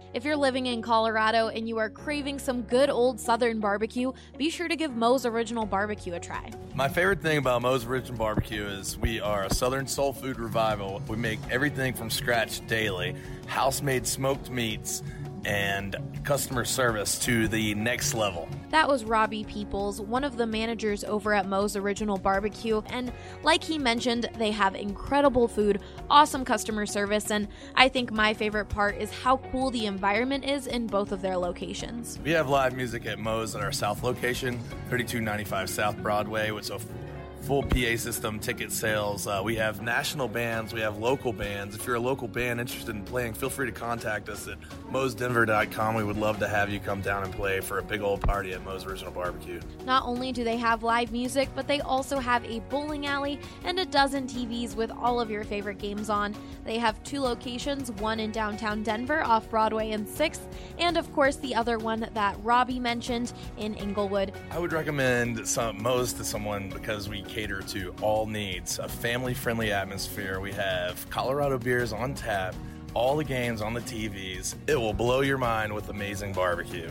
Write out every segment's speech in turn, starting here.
If you're living in Colorado and you are craving some good old Southern barbecue, be sure to give Moe's Original Barbecue a try. My favorite thing about Moe's Original Barbecue is we are a Southern soul food revival. We make everything from scratch daily, house-made smoked meats, and customer service to the next level. That was Robbie Peoples, one of the managers over at Moe's Original Barbecue, and like he mentioned, they have incredible food, awesome customer service, and I think my favorite part is how cool the environment is in both of their locations. We have live music at Moe's at our South location, 3295 South Broadway, with a full PA system, ticket sales. We have national bands. We have local bands. If you're a local band interested in playing, feel free to contact us at moesdenver.com. We would love to have you come down and play for a big old party at Moe's Original Barbecue. Not only do they have live music, but they also have a bowling alley and a dozen TVs with all of your favorite games on. They have 2 locations, one in downtown Denver off Broadway and 6th, and of course the other one that Robbie mentioned in Inglewood. I would recommend Moe's to someone because we cater to all needs, a family-friendly atmosphere. We have Colorado beers on tap, all the games on the TVs. It will blow your mind with amazing barbecue.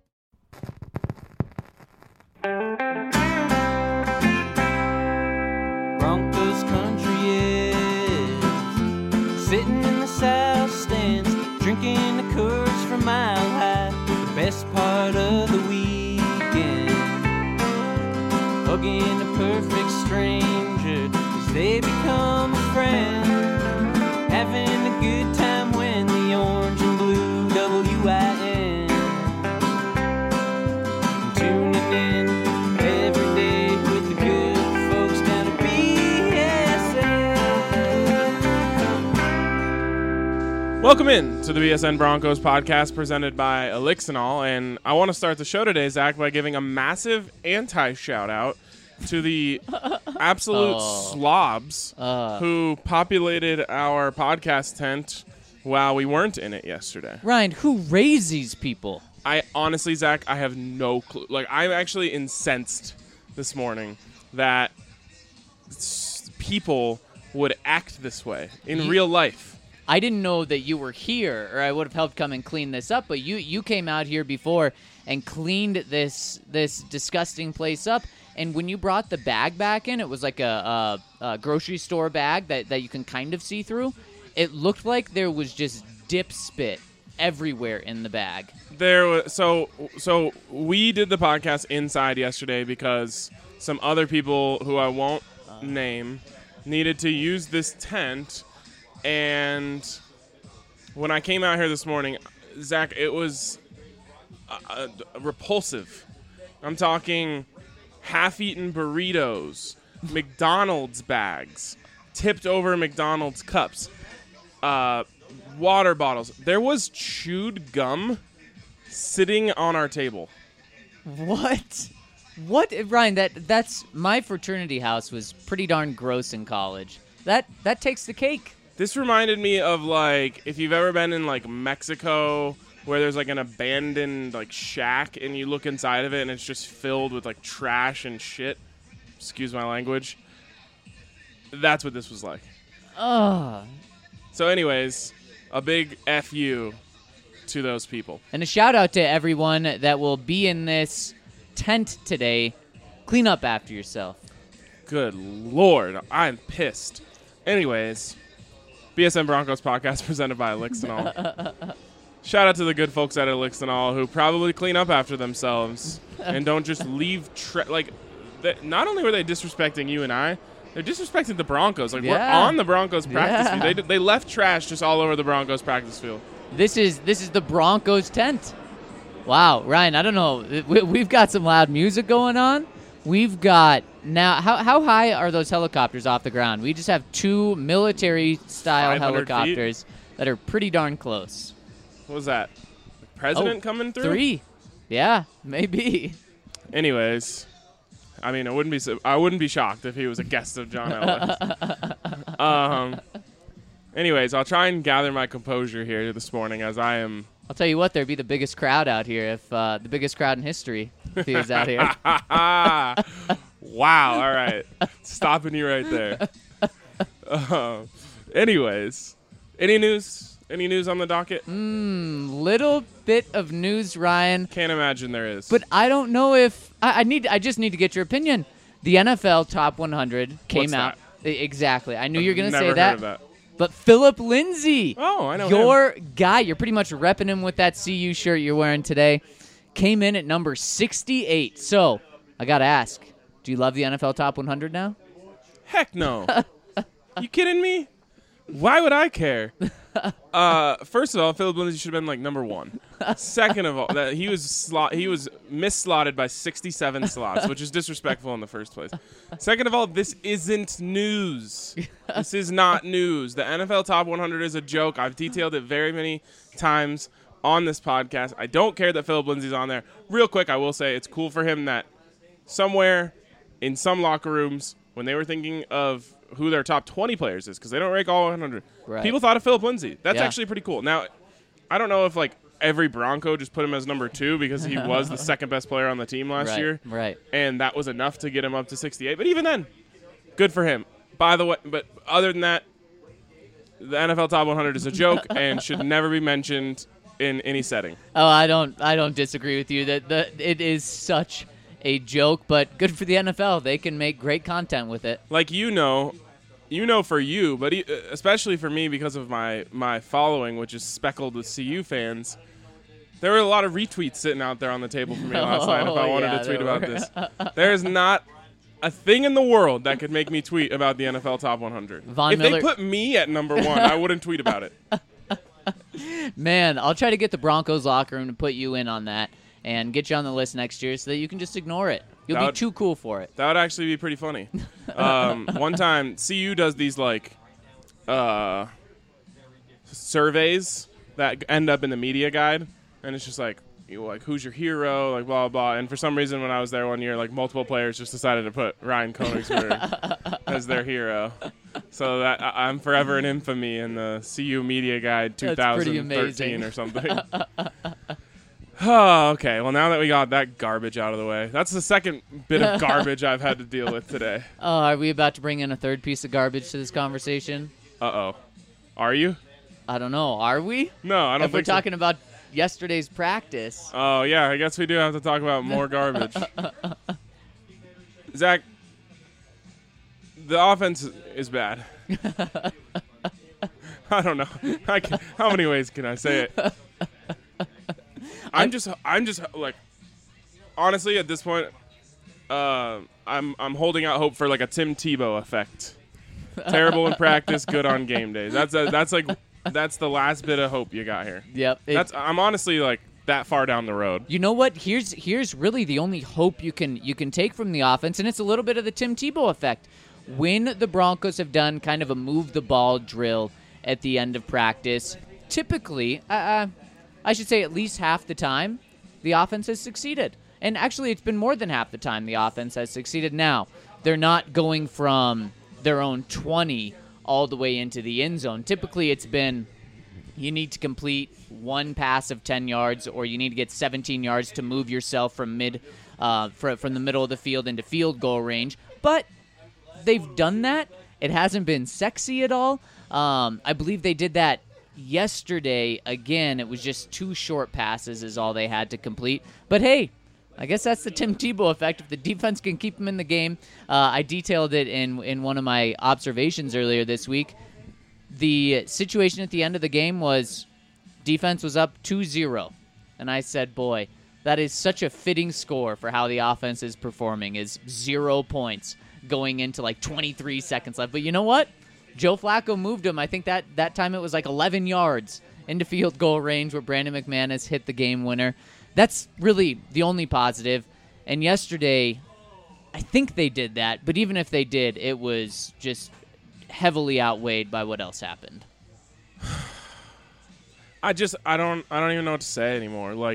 Broncos country is sitting in the south stands, drinking the Coors from Mile High, the best part of the weekend. Hugging a perfect stranger as they become a friend. Having a good time when the orange and blue WIN. Tuning in every day with the good folks down at BSN. Welcome in to the BSN Broncos podcast presented by Elixinol, and I want to start the show today, Zach, by giving a massive anti-shout-out to the absolute slobs who populated our podcast tent while we weren't in it yesterday. Ryan, who raised these people? I honestly, Zach, I have no clue. Like, I'm actually incensed this morning that people would act this way in real life. I didn't know that you were here, or I would have helped come and clean this up, but you came out here before and cleaned this disgusting place up. And when you brought the bag back in, it was like a grocery store bag that you can kind of see through. It looked like there was just dip spit everywhere in the bag. There was so we did the podcast inside yesterday because some other people who I won't name needed to use this tent, and when I came out here this morning, Zach, it was repulsive. I'm talking half-eaten burritos, McDonald's bags, tipped over McDonald's cups, water bottles. There was chewed gum sitting on our table. What? Ryan, that's my fraternity house was pretty darn gross in college. That takes the cake. This reminded me of, like, if you've ever been in, like, Mexico, where there's, like, an abandoned, like, shack, and you look inside of it, and it's just filled with, like, trash and shit. Excuse my language. That's what this was like. Ugh. So anyways, a big F-U to those people. And a shout-out to everyone that will be in this tent today. Clean up after yourself. Good Lord, I'm pissed. Anyways, BSN Broncos podcast presented by Elixinol. Shout out to the good folks at Elixinol who probably clean up after themselves and don't just leave not only were they disrespecting you and I, they're disrespecting the Broncos. Like, we're on the Broncos practice field. They left trash just all over the Broncos practice field. This is the Broncos tent. Wow, Ryan, I don't know. We've got some loud music going on. We've got now. How high are those helicopters off the ground? We just have 2 military-style helicopters that are pretty darn close. What was that? The president coming through? 3. Yeah, maybe. Anyways, I mean, I wouldn't be shocked if he was a guest of John Elway. Anyways, I'll try and gather my composure here this morning as I am. I'll tell you what, there'd be the biggest crowd out here if the biggest crowd in history if he was out here. Wow. All right. Stopping you right there. Anyways, any news Any news on the docket? Little bit of news, Ryan. Can't imagine there is. But I don't know if I just need to get your opinion. The NFL Top 100 came What's out. Exactly. I knew you were going to Never say heard that. of that. But Philip Lindsay, Oh, I know your guy, you're pretty much repping him with that CU shirt you're wearing today, came in at number 68. So I got to ask, do you love the NFL Top 100 now? Heck no. You kidding me? Why would I care? First of all, Philip Lindsay should have been like number 1. Second of all, that he was misslotted by 67 slots, which is disrespectful in the first place. Second of all, this isn't news. This is not news. The NFL Top 100 is a joke. I've detailed it very many times on this podcast. I don't care that Philip Lindsay's on there. Real quick, I will say it's cool for him that somewhere in some locker rooms, when they were thinking of who their top 20 players is, because they don't rank all 100, Right. people thought of Philip Lindsay. That's Yeah. actually pretty cool. Now, I don't know if like every Bronco just put him as number 2 because he was the second best player on the team last year. Right. And that was enough to get him up to 68. But even then, good for him. By the way, but other than that, the NFL Top 100 is a joke and should never be mentioned in any setting. Oh, I don't disagree with you that it is such a joke, but good for the NFL. They can make great content with it. Like for you, but especially for me because of my following, which is speckled with CU fans, there were a lot of retweets sitting out there on the table for me last night if I wanted yeah, to tweet there about were. this. There is not a thing in the world that could make me tweet about the NFL Top 100. Von If Miller- they put me at number 1, I wouldn't tweet about it. Man, I'll try to get the Broncos locker room to put you in on that and get you on the list next year so that you can just ignore it. You'll That be would- too cool for it. That would actually be pretty funny. One time, CU does these like surveys that end up in the media guide, and it's just like, who's your hero, like blah blah blah. And for some reason, when I was there one year, like multiple players just decided to put Ryan Koenigsberg as their hero. So that I'm forever in infamy in the CU media guide That's pretty 2013 amazing. or something. Oh, okay. Well, now that we got that garbage out of the way, that's the second bit of garbage I've had to deal with today. Oh, are we about to bring in a third piece of garbage to this conversation? Uh-oh. Are you? I don't know. Are we? No, I don't If we're think so. talking about yesterday's practice. Oh, yeah, I guess we do have to talk about more garbage. Zach, the offense is bad. I don't know. How many ways can I say it? I'm just like, honestly, at this point, I'm holding out hope for like a Tim Tebow effect. Terrible in practice, good on game days. That's the last bit of hope you got here. Yep. I'm honestly like that far down the road. You know what? Here's really the only hope you can take from the offense, and it's a little bit of the Tim Tebow effect. When the Broncos have done kind of a move the ball drill at the end of practice, typically, I should say at least half the time, the offense has succeeded. And actually, it's been more than half the time the offense has succeeded. Now, they're not going from their own 20 all the way into the end zone. Typically, it's been you need to complete one pass of 10 yards or you need to get 17 yards to move yourself from from the middle of the field into field goal range. But they've done that. It hasn't been sexy at all. I believe they did that yesterday. Again, it was just 2 short passes is all they had to complete. But hey, I guess that's the Tim Tebow effect. If the defense can keep him in the game, I detailed it in one of my observations earlier this week. The situation at the end of the game was defense was up 2-0. And I said, boy, that is such a fitting score for how the offense is performing, is 0 points going into like 23 seconds left. But you know what? Joe Flacco moved him. I think that time it was like 11 yards into field goal range where Brandon McManus hit the game winner. That's really the only positive. And yesterday, I think they did that. But even if they did, it was just heavily outweighed by what else happened. I don't even know what to say anymore. Like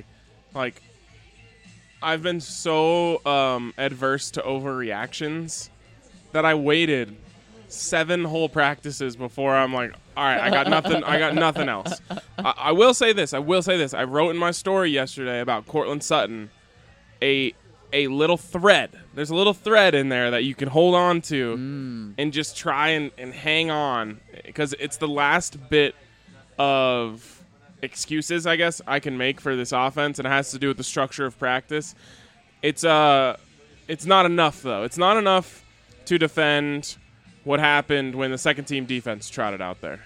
I've been so adverse to overreactions that I waited 7 whole practices before I'm like, all right, I got nothing else. I will say this. I wrote in my story yesterday about Cortland Sutton a little thread. There's a little thread in there that you can hold on to and just try and hang on, because it's the last bit of excuses, I guess, I can make for this offense, and it has to do with the structure of practice. It's not enough, though. It's not enough to defend what happened when the second-team defense trotted out there.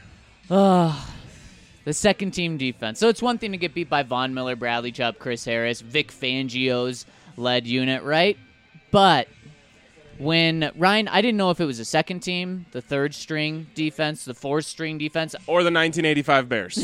The second-team defense. So it's one thing to get beat by Von Miller, Bradley Chubb, Chris Harris, Vic Fangio's led unit, right? But when Ryan, I didn't know if it was the second team, the third-string defense, the fourth-string defense, or the 1985 Bears.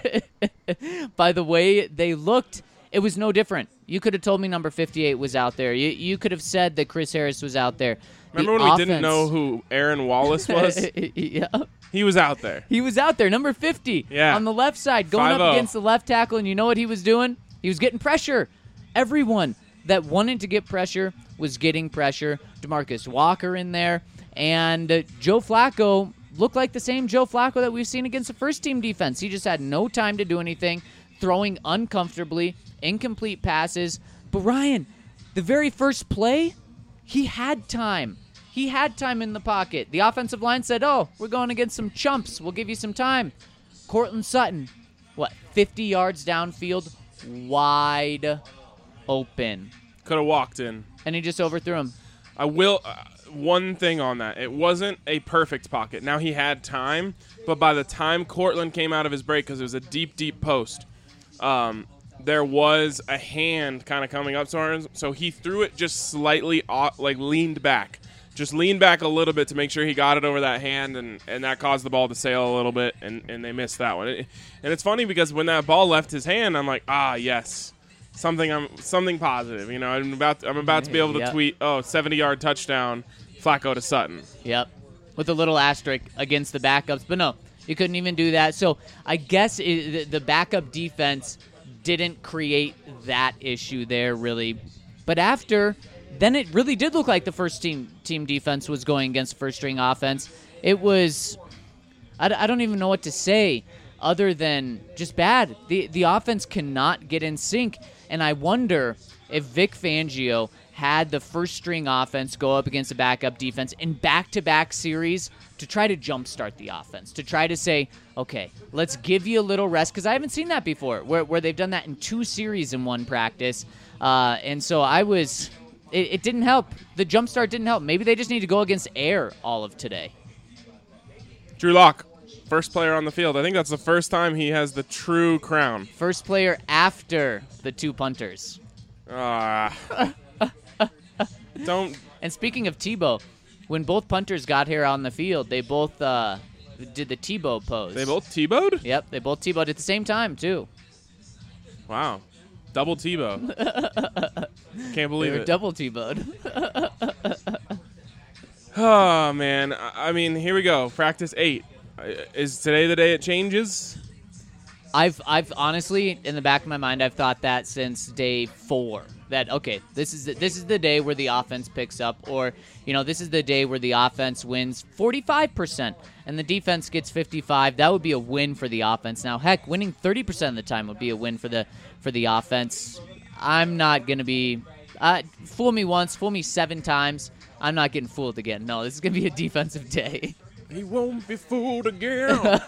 By the way they looked, it was no different. You could have told me number 58 was out there. You could have said that Chris Harris was out there. Remember when we didn't know who Aaron Wallace was? Yeah. He was out there. He was out there, number 50, on the left side, going 5-0. up against the left tackle, and you know what he was doing? He was getting pressure. Everyone that wanted to get pressure was getting pressure. DeMarcus Walker in there, and Joe Flacco looked like the same Joe Flacco that we've seen against the first-team defense. He just had no time to do anything, throwing uncomfortably, incomplete passes. But Ryan, the very first play, he had time. He had time in the pocket. The offensive line said, we're going against some chumps. We'll give you some time. Cortland Sutton, 50 yards downfield, wide open. Could have walked in. And he just overthrew him. I will. One thing on that. It wasn't a perfect pocket. Now, he had time, but by the time Cortland came out of his break, because it was a deep, deep post, there was a hand kind of coming up to him, so he threw it just slightly, leaned back. Just leaned back a little bit to make sure he got it over that hand, and that caused the ball to sail a little bit, and they missed that one. And it's funny because when that ball left his hand, I'm like, yes, something positive. You know, I'm about to be able to tweet, 70-yard touchdown, Flacco to Sutton. Yep, with a little asterisk against the backups, but no, you couldn't even do that. So I guess the backup defense didn't create that issue there, really. But then it really did look like the first team defense was going against first-string offense. It was, I don't even know what to say other than just bad. The offense cannot get in sync, and I wonder if Vic Fangio had the first-string offense go up against a backup defense in back-to-back series to try to jumpstart the offense, to try to say, okay, let's give you a little rest, because I haven't seen that before, where they've done that in 2 series in one practice. And so it didn't help. The jumpstart didn't help. Maybe they just need to go against air all of today. Drew Lock, first player on the field. I think that's the first time he has the true crown. First player after the 2 punters. Don't. And speaking of Tebow, when both punters got here on the field, they both did the Tebow pose. They both Tebowed? Yep, they both Tebowed at the same time, too. Wow. Double Tebow. Can't believe They were it. double Tebowed. Oh, man. I mean, here we go. Practice 8. Is today the day it changes? I've honestly, in the back of my mind, I've thought that since day 4. That, okay, this is the day where the offense picks up, or, this is the day where the offense wins 45% and the defense gets 55. That would be a win for the offense. Now, heck, winning 30% of the time would be a win for the offense. I'm not going to be fool me once, fool me 7 times. I'm not getting fooled again. No, this is going to be a defensive day. He won't be fooled again.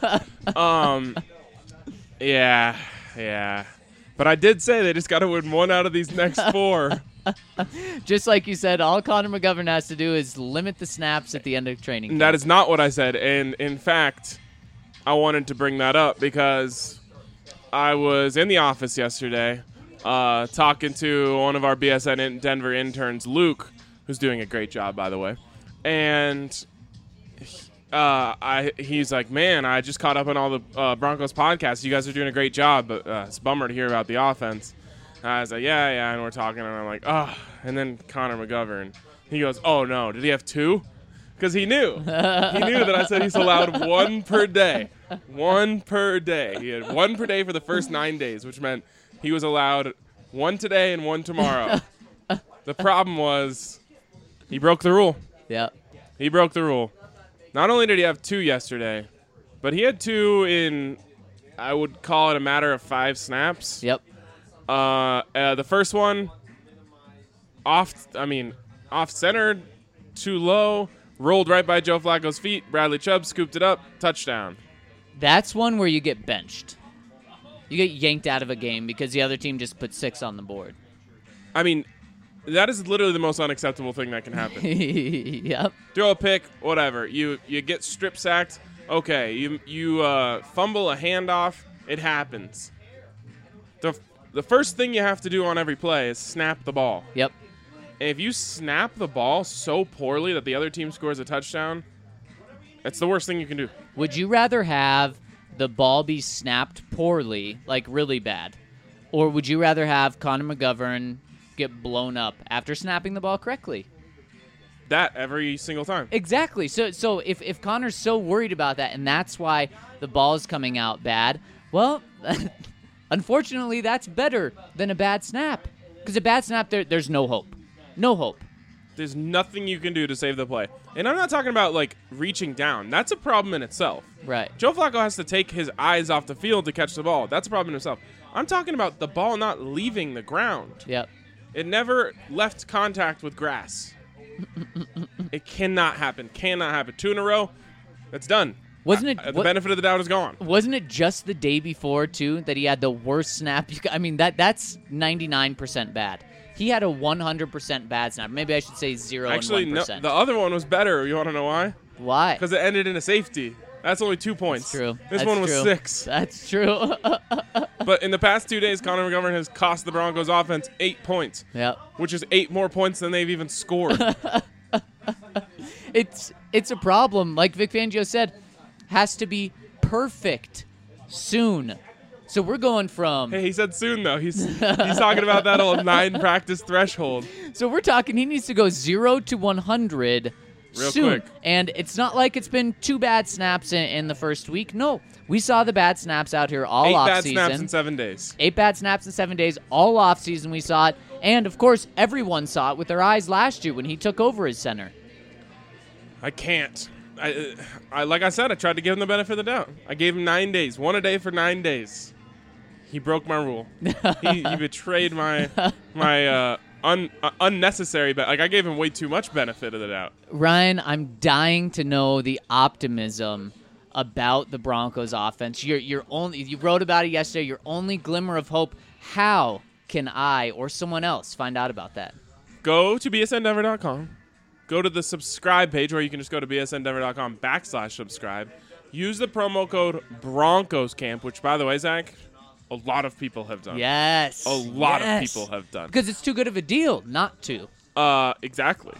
Yeah. But I did say they just got to win 1 out of these next 4. Just like you said, all Connor McGovern has to do is limit the snaps at the end of training camp. That is not what I said. And, in fact, I wanted to bring that up because I was in the office yesterday talking to one of our BSN Denver interns, Luke, who's doing a great job, by the way. And he's like, man, I just caught up on all the Broncos podcasts. You guys are doing a great job, but it's a bummer to hear about the offense. And I was like, yeah, and we're talking, and I'm like, and then Connor McGovern. He goes, oh, no, did he have 2? Because he knew. He knew that I said he's allowed 1 per day. 1 per day. He had 1 per day for the first 9 days, which meant he was allowed 1 today and 1 tomorrow. The problem was he broke the rule. Yeah. He broke the rule. Not only did he have 2 yesterday, but he had 2 in, I would call it a matter of 5 snaps. Yep. The first one, off-centered, too low, rolled right by Joe Flacco's feet. Bradley Chubb scooped it up, touchdown. That's one where you get benched. You get yanked out of a game because the other team just put 6 on the board. I mean, that is literally the most unacceptable thing that can happen. Yep. Throw a pick, whatever. You get strip sacked. Okay, you fumble a handoff. It happens. The first thing you have to do on every play is snap the ball. Yep. And if you snap the ball so poorly that the other team scores a touchdown, it's the worst thing you can do. Would you rather have the ball be snapped poorly, like really bad, or would you rather have Connor McGovern get blown up after snapping the ball correctly? That every single time. Exactly. So if Connor's so worried about that and that's why the ball is coming out bad, well, unfortunately, that's better than a bad snap. Because a bad snap, there's no hope. No hope. There's nothing you can do to save the play. And I'm not talking about, like, reaching down. That's a problem in itself. Right. Joe Flacco has to take his eyes off the field to catch the ball. That's a problem in itself. I'm talking about the ball not leaving the ground. Yep. It never left contact with grass. It cannot happen. Cannot happen. 2 in a row, that's done. Wasn't it? The benefit of the doubt is gone. Wasn't it just the day before too that he had the worst snap? I mean that's 99% bad. He had a 100% bad snap. Maybe I should say 0 Actually, and 1%. no, the other one was better. You want to know why? Why? Because it ended in a safety. That's only 2 points. That's true. This That's one was true. 6. That's true. But in the past 2 days, Connor McGovern has cost the Broncos offense 8 points. Yep. Which is 8 more points than they've even scored. It's a problem. Like Vic Fangio said, has to be perfect soon. So we're going from. Hey, he said soon though. He's talking about that old 9 practice threshold. So we're talking. He needs to go 0 to 100 Real soon. quick. And it's not like it's been 2 bad snaps in the first week. No, we saw the bad snaps out here all 8 off bad season. snaps in 7 days. 8 bad snaps in 7 days, all off season. We saw it, and of course, everyone saw it with their eyes last year when he took over as center. I can't. I like I said, I tried to give him the benefit of the doubt. I gave him 9 days, 1 a day for 9 days. He broke my rule. he betrayed my unnecessary, but like I gave him way too much benefit of the doubt. Ryan, I'm dying to know the optimism about the Broncos offense. You wrote about it yesterday. Your only glimmer of hope. How can I or someone else find out about that? Go to bsndenver.com. Go to the subscribe page where you can just go to bsndenver.com/subscribe. Use the promo code BroncosCamp, which, by the way, Zach, a lot of people have done. Yes. A lot of Yes. people have done. Because it's too good of a deal not to. Exactly.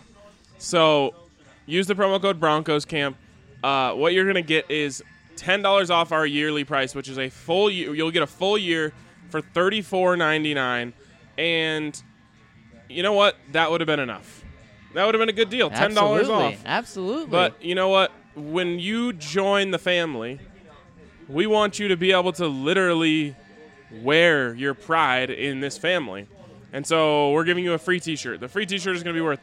So use the promo code BroncosCamp. What you're going to get is $10 off our yearly price, which is a full year. You'll get a full year for $34.99. And you know what? That would have been enough. That would have been a good deal. $10 off. Absolutely. But you know what? When you join the family, we want you to be able to literally wear your pride in this family. And so we're giving you a free t-shirt. The free t-shirt is going to be worth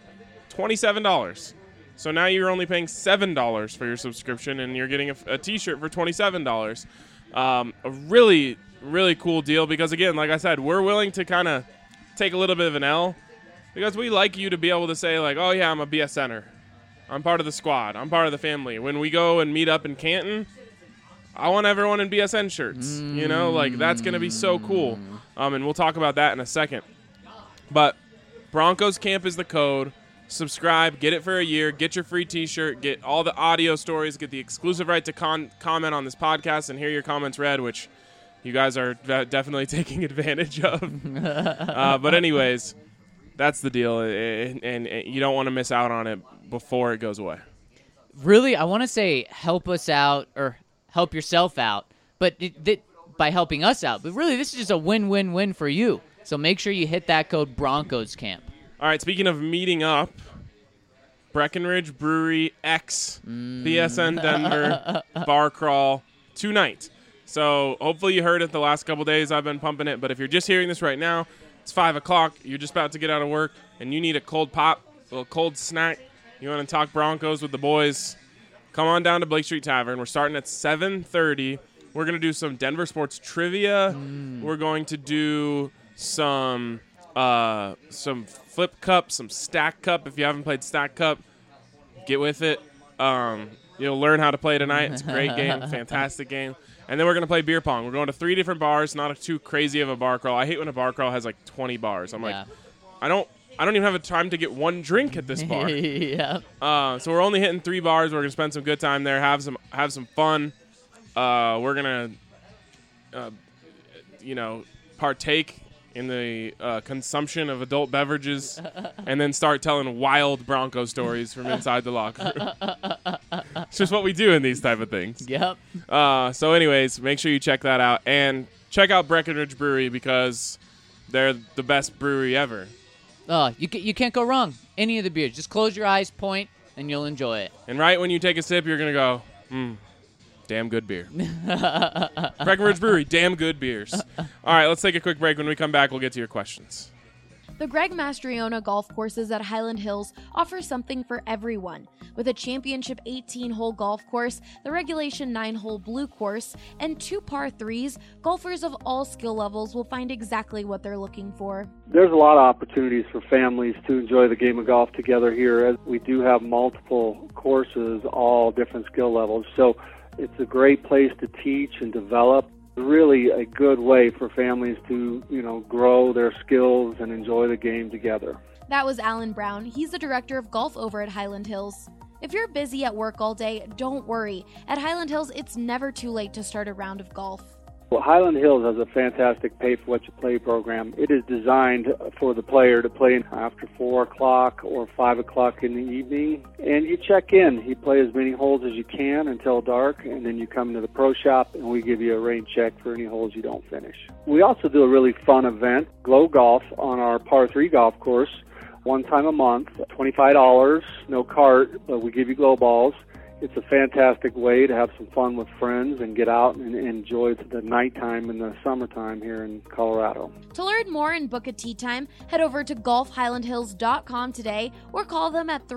$27. So now you're only paying $7 for your subscription, and you're getting a t-shirt for $27. A really, really cool deal because, again, like I said, we're willing to kind of take a little bit of an L because we like you to be able to say, like, oh, yeah, I'm a BS center. I'm part of the squad. I'm part of the family. When we go and meet up in Canton, I want everyone in BSN shirts. You know, like, that's going to be so cool. And we'll talk about that in a second. But Broncos Camp is the code. Subscribe, get it for a year, get your free t-shirt, get all the audio stories, get the exclusive right to comment on this podcast and hear your comments read, which you guys are definitely taking advantage of. But anyways, that's the deal, and you don't want to miss out on it before it goes away. Really, I want to say help us out or help yourself out, but by helping us out. But really, this is just a win-win-win for you. So make sure you hit that code Broncos Camp. All right, speaking of meeting up, Breckenridge Brewery X BSN Denver bar crawl tonight. So hopefully you heard it the last couple days I've been pumping it, but if you're just hearing this right now, it's 5 o'clock, you're just about to get out of work, and you need a cold pop, a little cold snack, you want to talk Broncos with the boys, come on down to Blake Street Tavern. We're starting at 7:30. We're going to do some Denver sports trivia. We're going to do some flip cup, some stack cup. If you haven't played stack cup, get with it. You'll learn how to play tonight. It's a great game, fantastic game. And then we're going to play beer pong. We're going to 3 different bars, not too crazy of a bar crawl. I hate when a bar crawl has like 20 bars. I'm like, I don't even have a time to get one drink at this bar. Yeah. So we're only hitting 3 bars. We're going to spend some good time there, have some fun. We're going to, partake in the consumption of adult beverages and then start telling wild Bronco stories from inside the locker room. It's just what we do in these type of things. Yep. So anyways, make sure you check that out. And check out Breckenridge Brewery because they're the best brewery ever. You can't go wrong. Any of the beers. Just close your eyes, point, and you'll enjoy it. And right when you take a sip, you're going to go, damn good beer. Breckenridge Brewery, damn good beers. All right, let's take a quick break. When we come back, we'll get to your questions. The Greg Mastriona golf courses at Highland Hills offer something for everyone. With a championship 18-hole golf course, the regulation 9-hole blue course, and 2 par 3s, golfers of all skill levels will find exactly what they're looking for. There's a lot of opportunities for families to enjoy the game of golf together here, as we do have multiple courses, all different skill levels. So it's a great place to teach and develop. Really a good way for families to, grow their skills and enjoy the game together. That was Alan Brown. He's the director of golf over at Highland Hills. If you're busy at work all day, don't worry. At Highland Hills, it's never too late to start a round of golf. Well, Highland Hills has a fantastic pay-for-what-you-play program. It is designed for the player to play after 4 o'clock or 5 o'clock in the evening. And you check in. You play as many holes as you can until dark, and then you come into the pro shop, and we give you a rain check for any holes you don't finish. We also do a really fun event, Glow Golf, on our par 3 golf course, one time a month, $25, no cart, but we give you glow balls. It's a fantastic way to have some fun with friends and get out and enjoy the nighttime in the summertime here in Colorado. To learn more and book a tee time, head over to golfhighlandhills.com today or call them at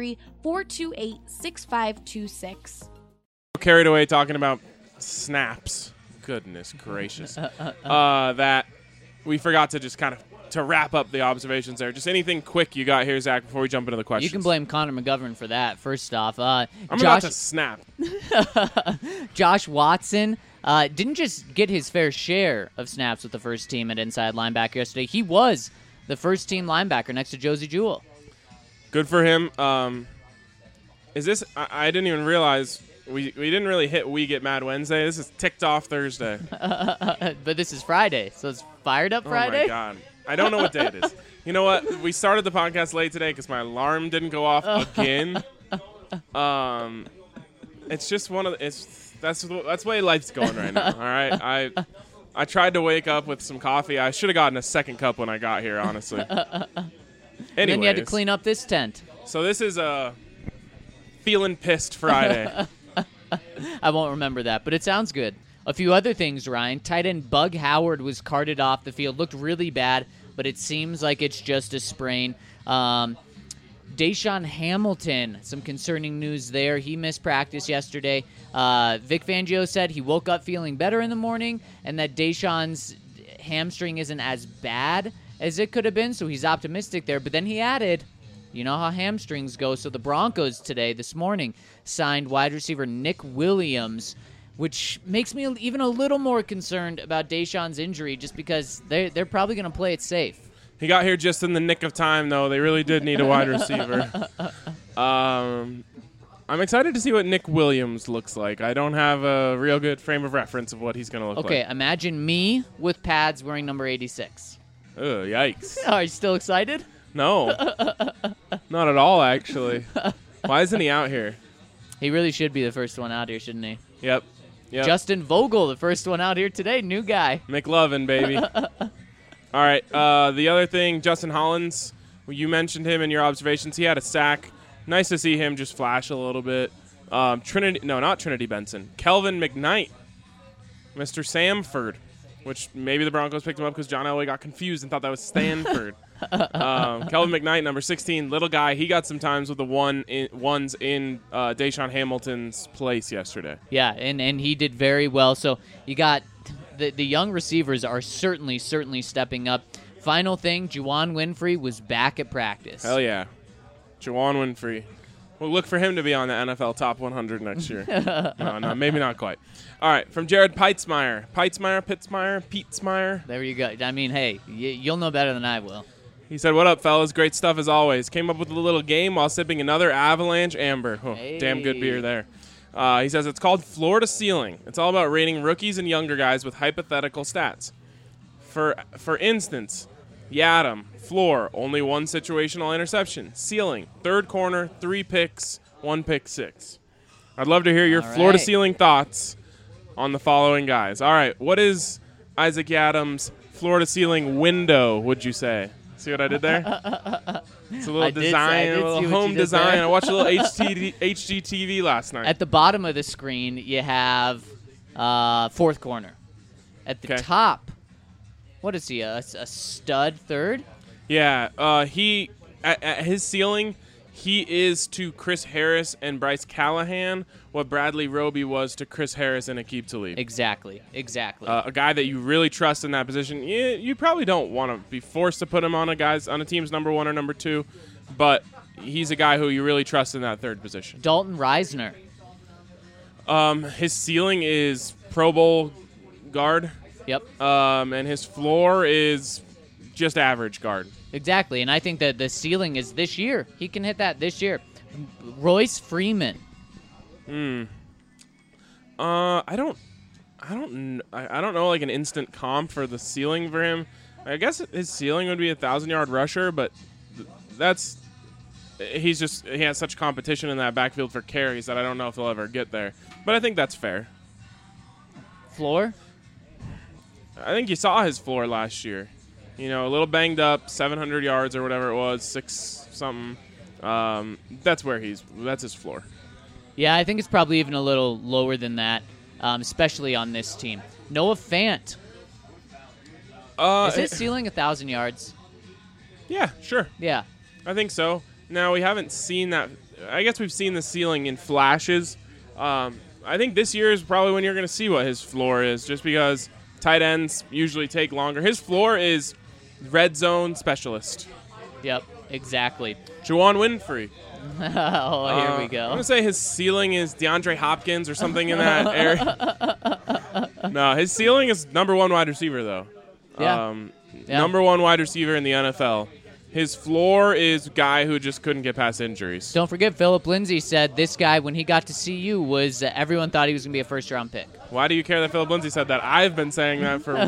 303-428-6526. Carried away talking about snaps. Goodness gracious. That we forgot to just kind of to wrap up the observations there. Just anything quick you got here, Zach, before we jump into the questions. You can blame Connor McGovern for that, first off. I'm about to snap. Josh Watson didn't just get his fair share of snaps with the first team at inside linebacker yesterday. He was the first team linebacker next to Josie Jewell. Good for him. Is this – I didn't even realize we didn't really hit We Get Mad Wednesday. This is ticked off Thursday. But this is Friday, so it's Fired Up Friday? Oh, my God. I don't know what day it is. You know what? We started the podcast late today because my alarm didn't go off again. It's just one of the, that's the way life's going right now. All right, I tried to wake up with some coffee. I should have gotten a second cup when I got here, honestly. And then you had to clean up this tent. So this is a feeling pissed Friday. I won't remember that, but it sounds good. A few other things, Ryan. Tight end Bug Howard was carted off the field. Looked really bad, but it seems like it's just a sprain. Deshaun Hamilton, some concerning news there. He missed practice yesterday. Vic Fangio said he woke up feeling better in the morning and that Deshaun's hamstring isn't as bad as it could have been, so he's optimistic there. But then he added, you know how hamstrings go. So the Broncos today, this morning, signed wide receiver Nick Williams, which makes me even a little more concerned about Deshaun's injury just because they're probably going to play it safe. He got here just in the nick of time, though. They really did need a wide receiver. I'm excited to see what Nick Williams looks like. I don't have a real good frame of reference of what he's going to look like. Okay, imagine me with pads wearing number 86. Ugh, yikes. Are you still excited? No. Not at all, actually. Why isn't he out here? He really should be the first one out here, shouldn't he? Yep. Justin Vogel, the first one out here today. New guy. McLovin, baby. All right. The other thing, Justin Hollins, you mentioned him in your observations. He had a sack. Nice to see him just flash a little bit. Not Trinity Benson. Kelvin McKnight, Mr. Samford, which maybe the Broncos picked him up because John Elway got confused and thought that was Stanford. Kelvin McKnight, number 16, little guy. He got some times with the ones in Deshaun Hamilton's place yesterday. Yeah, and he did very well. So you got the young receivers are certainly stepping up. Final thing, Juwan Winfrey was back at practice. Hell yeah. Juwan Winfrey. We'll look for him to be on the NFL Top 100 next year. No, maybe not quite. All right, from Jared Peitzmeyer. Peitzmeyer. There you go. I mean, hey, you'll know better than I will. He said, "What up, fellas? Great stuff as always. Came up with a little game while sipping another Avalanche Amber. Oh, damn good beer there." He says it's called Floor to Ceiling. It's all about rating rookies and younger guys with hypothetical stats. For instance, Yadam, floor, only 1 situational interception. Ceiling, 3rd corner, 3 picks, 1 pick 6. I'd love to hear your floor to ceiling thoughts on the following guys. All right, what is Isaac Yadam's floor to ceiling window, would you say? See what I did there? It's a little design, a little home design. I watched a little HGTV last night. At the bottom of the screen, you have 4th corner. At the top, what is he, a stud 3rd? Yeah, he at his ceiling, he is to Chris Harris and Bryce Callahan what Bradley Roby was to Chris Harris and Aqib Talib. Exactly. A guy that you really trust in that position. You probably don't want to be forced to put him on a team's number 1 or number 2, but he's a guy who you really trust in that 3rd position. Dalton Reisner. His ceiling is Pro Bowl guard. Yep. And his floor is just average guard. Exactly, and I think that the ceiling is this year. He can hit that this year. Royce Freeman. I don't know like an instant comp for the ceiling for him. I guess his ceiling would be a 1,000-yard rusher, but he has such competition in that backfield for carries that I don't know if he'll ever get there. But I think that's fair. Floor? I think you saw his floor last year. A little banged up, 700 yards or whatever it was, 6 something. That's his floor. Yeah, I think it's probably even a little lower than that, especially on this team. Noah Fant. Is his ceiling 1,000 yards? Yeah, sure. Yeah. I think so. Now, we haven't seen that. I guess we've seen the ceiling in flashes. I think this year is probably when you're going to see what his floor is, just because tight ends usually take longer. His floor is red zone specialist. Yep, exactly. Juwan Winfrey. Here we go. I'm going to say his ceiling is DeAndre Hopkins or something in that area. No, his ceiling is number 1 wide receiver, though. Yeah. Number 1 wide receiver in the NFL. His floor is guy who just couldn't get past injuries. Don't forget, Philip Lindsay said this guy, when he got to CU, was everyone thought he was going to be a first-round pick. Why do you care that Philip Lindsay said that? I've been saying that for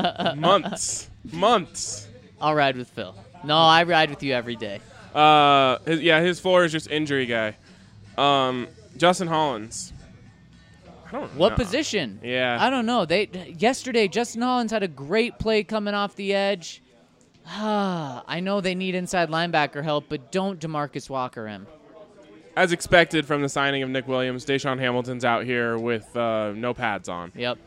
months. I'll ride with Phil. No, I ride with you every day. His floor is just injury guy. Justin Hollins. I don't know. What position? Yeah. I don't know. Yesterday, Justin Hollins had a great play coming off the edge. I know they need inside linebacker help, but don't DeMarcus Walker him. As expected from the signing of Nick Williams, Deshaun Hamilton's out here with no pads on. Yep.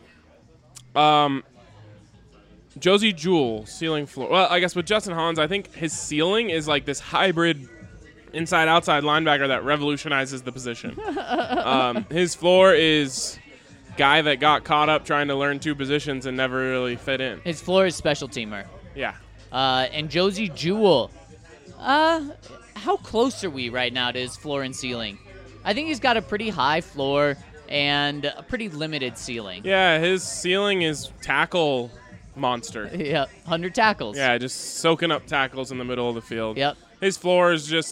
Josie Jewell, ceiling floor. Well, I guess with Justin Hollins, I think his ceiling is like this hybrid inside-outside linebacker that revolutionizes the position. His floor is guy that got caught up trying to learn 2 positions and never really fit in. His floor is special teamer. Yeah. And Josie Jewell. How close are we right now to his floor and ceiling? I think he's got a pretty high floor and a pretty limited ceiling. Yeah, his ceiling is tackle monster. Yeah, 100 tackles. Yeah, just soaking up tackles in the middle of the field. Yep. His floor is just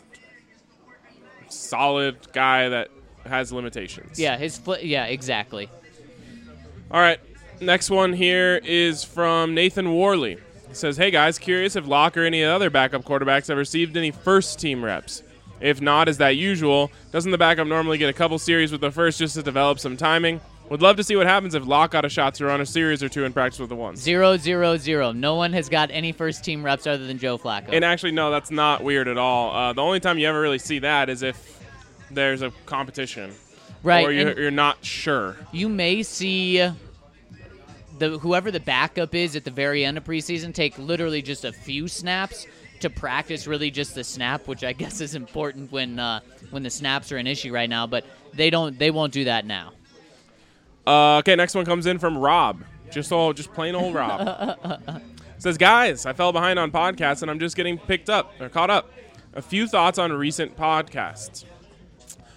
solid guy that has limitations. Yeah, yeah, exactly. All right, next one here is from Nathan Worley. He says, "Hey guys, curious if Locke or any other backup quarterbacks have received any first team reps. If not, is that usual? Doesn't the backup normally get a couple series with the first just to develop some timing? Would love to see what happens if Locke got a shot to run a series or 2 in practice with the ones." 0-0-0. No one has got any first team reps other than Joe Flacco. And actually, no, that's not weird at all. The only time you ever really see that is if there's a competition. Right. Or you're not sure. You may see whoever the backup is at the very end of preseason take literally just a few snaps to practice really just the snap, which I guess is important when the snaps are an issue right now, but they won't do that now. Okay, next one comes in from Rob. Just plain old Rob. Says, "Guys, I fell behind on podcasts and I'm just getting caught up. A few thoughts on recent podcasts.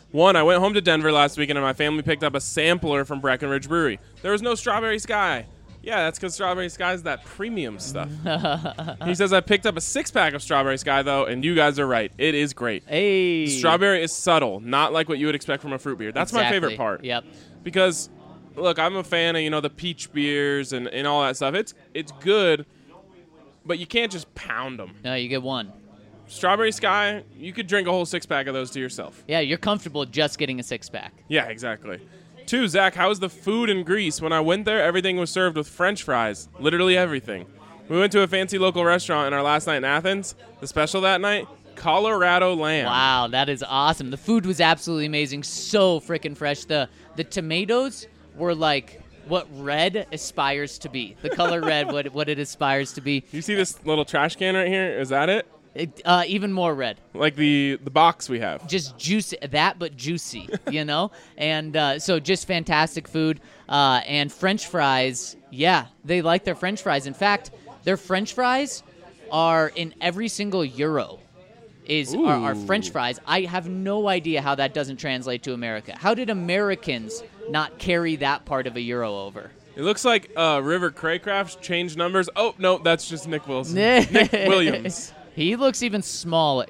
One, I went home to Denver last weekend and my family picked up a sampler from Breckenridge Brewery. There was no Strawberry Sky. Yeah, that's because Strawberry Sky is that premium stuff. He says, I picked up a 6-pack of Strawberry Sky, though, and you guys are right. It is great. Hey. Strawberry is subtle, not like what you would expect from a fruit beer. That's my favorite part. Yep. Because, look, I'm a fan of, the peach beers and all that stuff. It's good, but you can't just pound them. No, you get one. Strawberry Sky, you could drink a whole 6-pack of those to yourself. Yeah, you're comfortable just getting a 6-pack. Yeah, exactly. 2, Zach, how was the food in Greece? When I went there, everything was served with French fries. Literally everything. We went to a fancy local restaurant in our last night in Athens. The special that night, Colorado lamb. Wow, that is awesome. The food was absolutely amazing. So freaking fresh. The tomatoes were like what red aspires to be. The color red, what it aspires to be. You see this little trash can right here? Is that it? Even more red. Like the box we have. Just juicy, but juicy, And so just fantastic food. And French fries, yeah, they like their French fries. In fact, their French fries are in every single euro are French fries. I have no idea how that doesn't translate to America. How did Americans not carry that part of a euro over? It looks like River Craycraft changed numbers. Oh, no, that's just Nick Wilson. Nick Williams. He looks even smaller.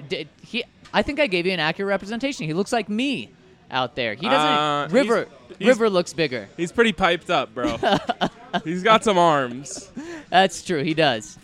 I think I gave you an accurate representation. He looks like me out there. He doesn't. River looks bigger. He's pretty piped up, bro. He's got some arms. That's true. He does.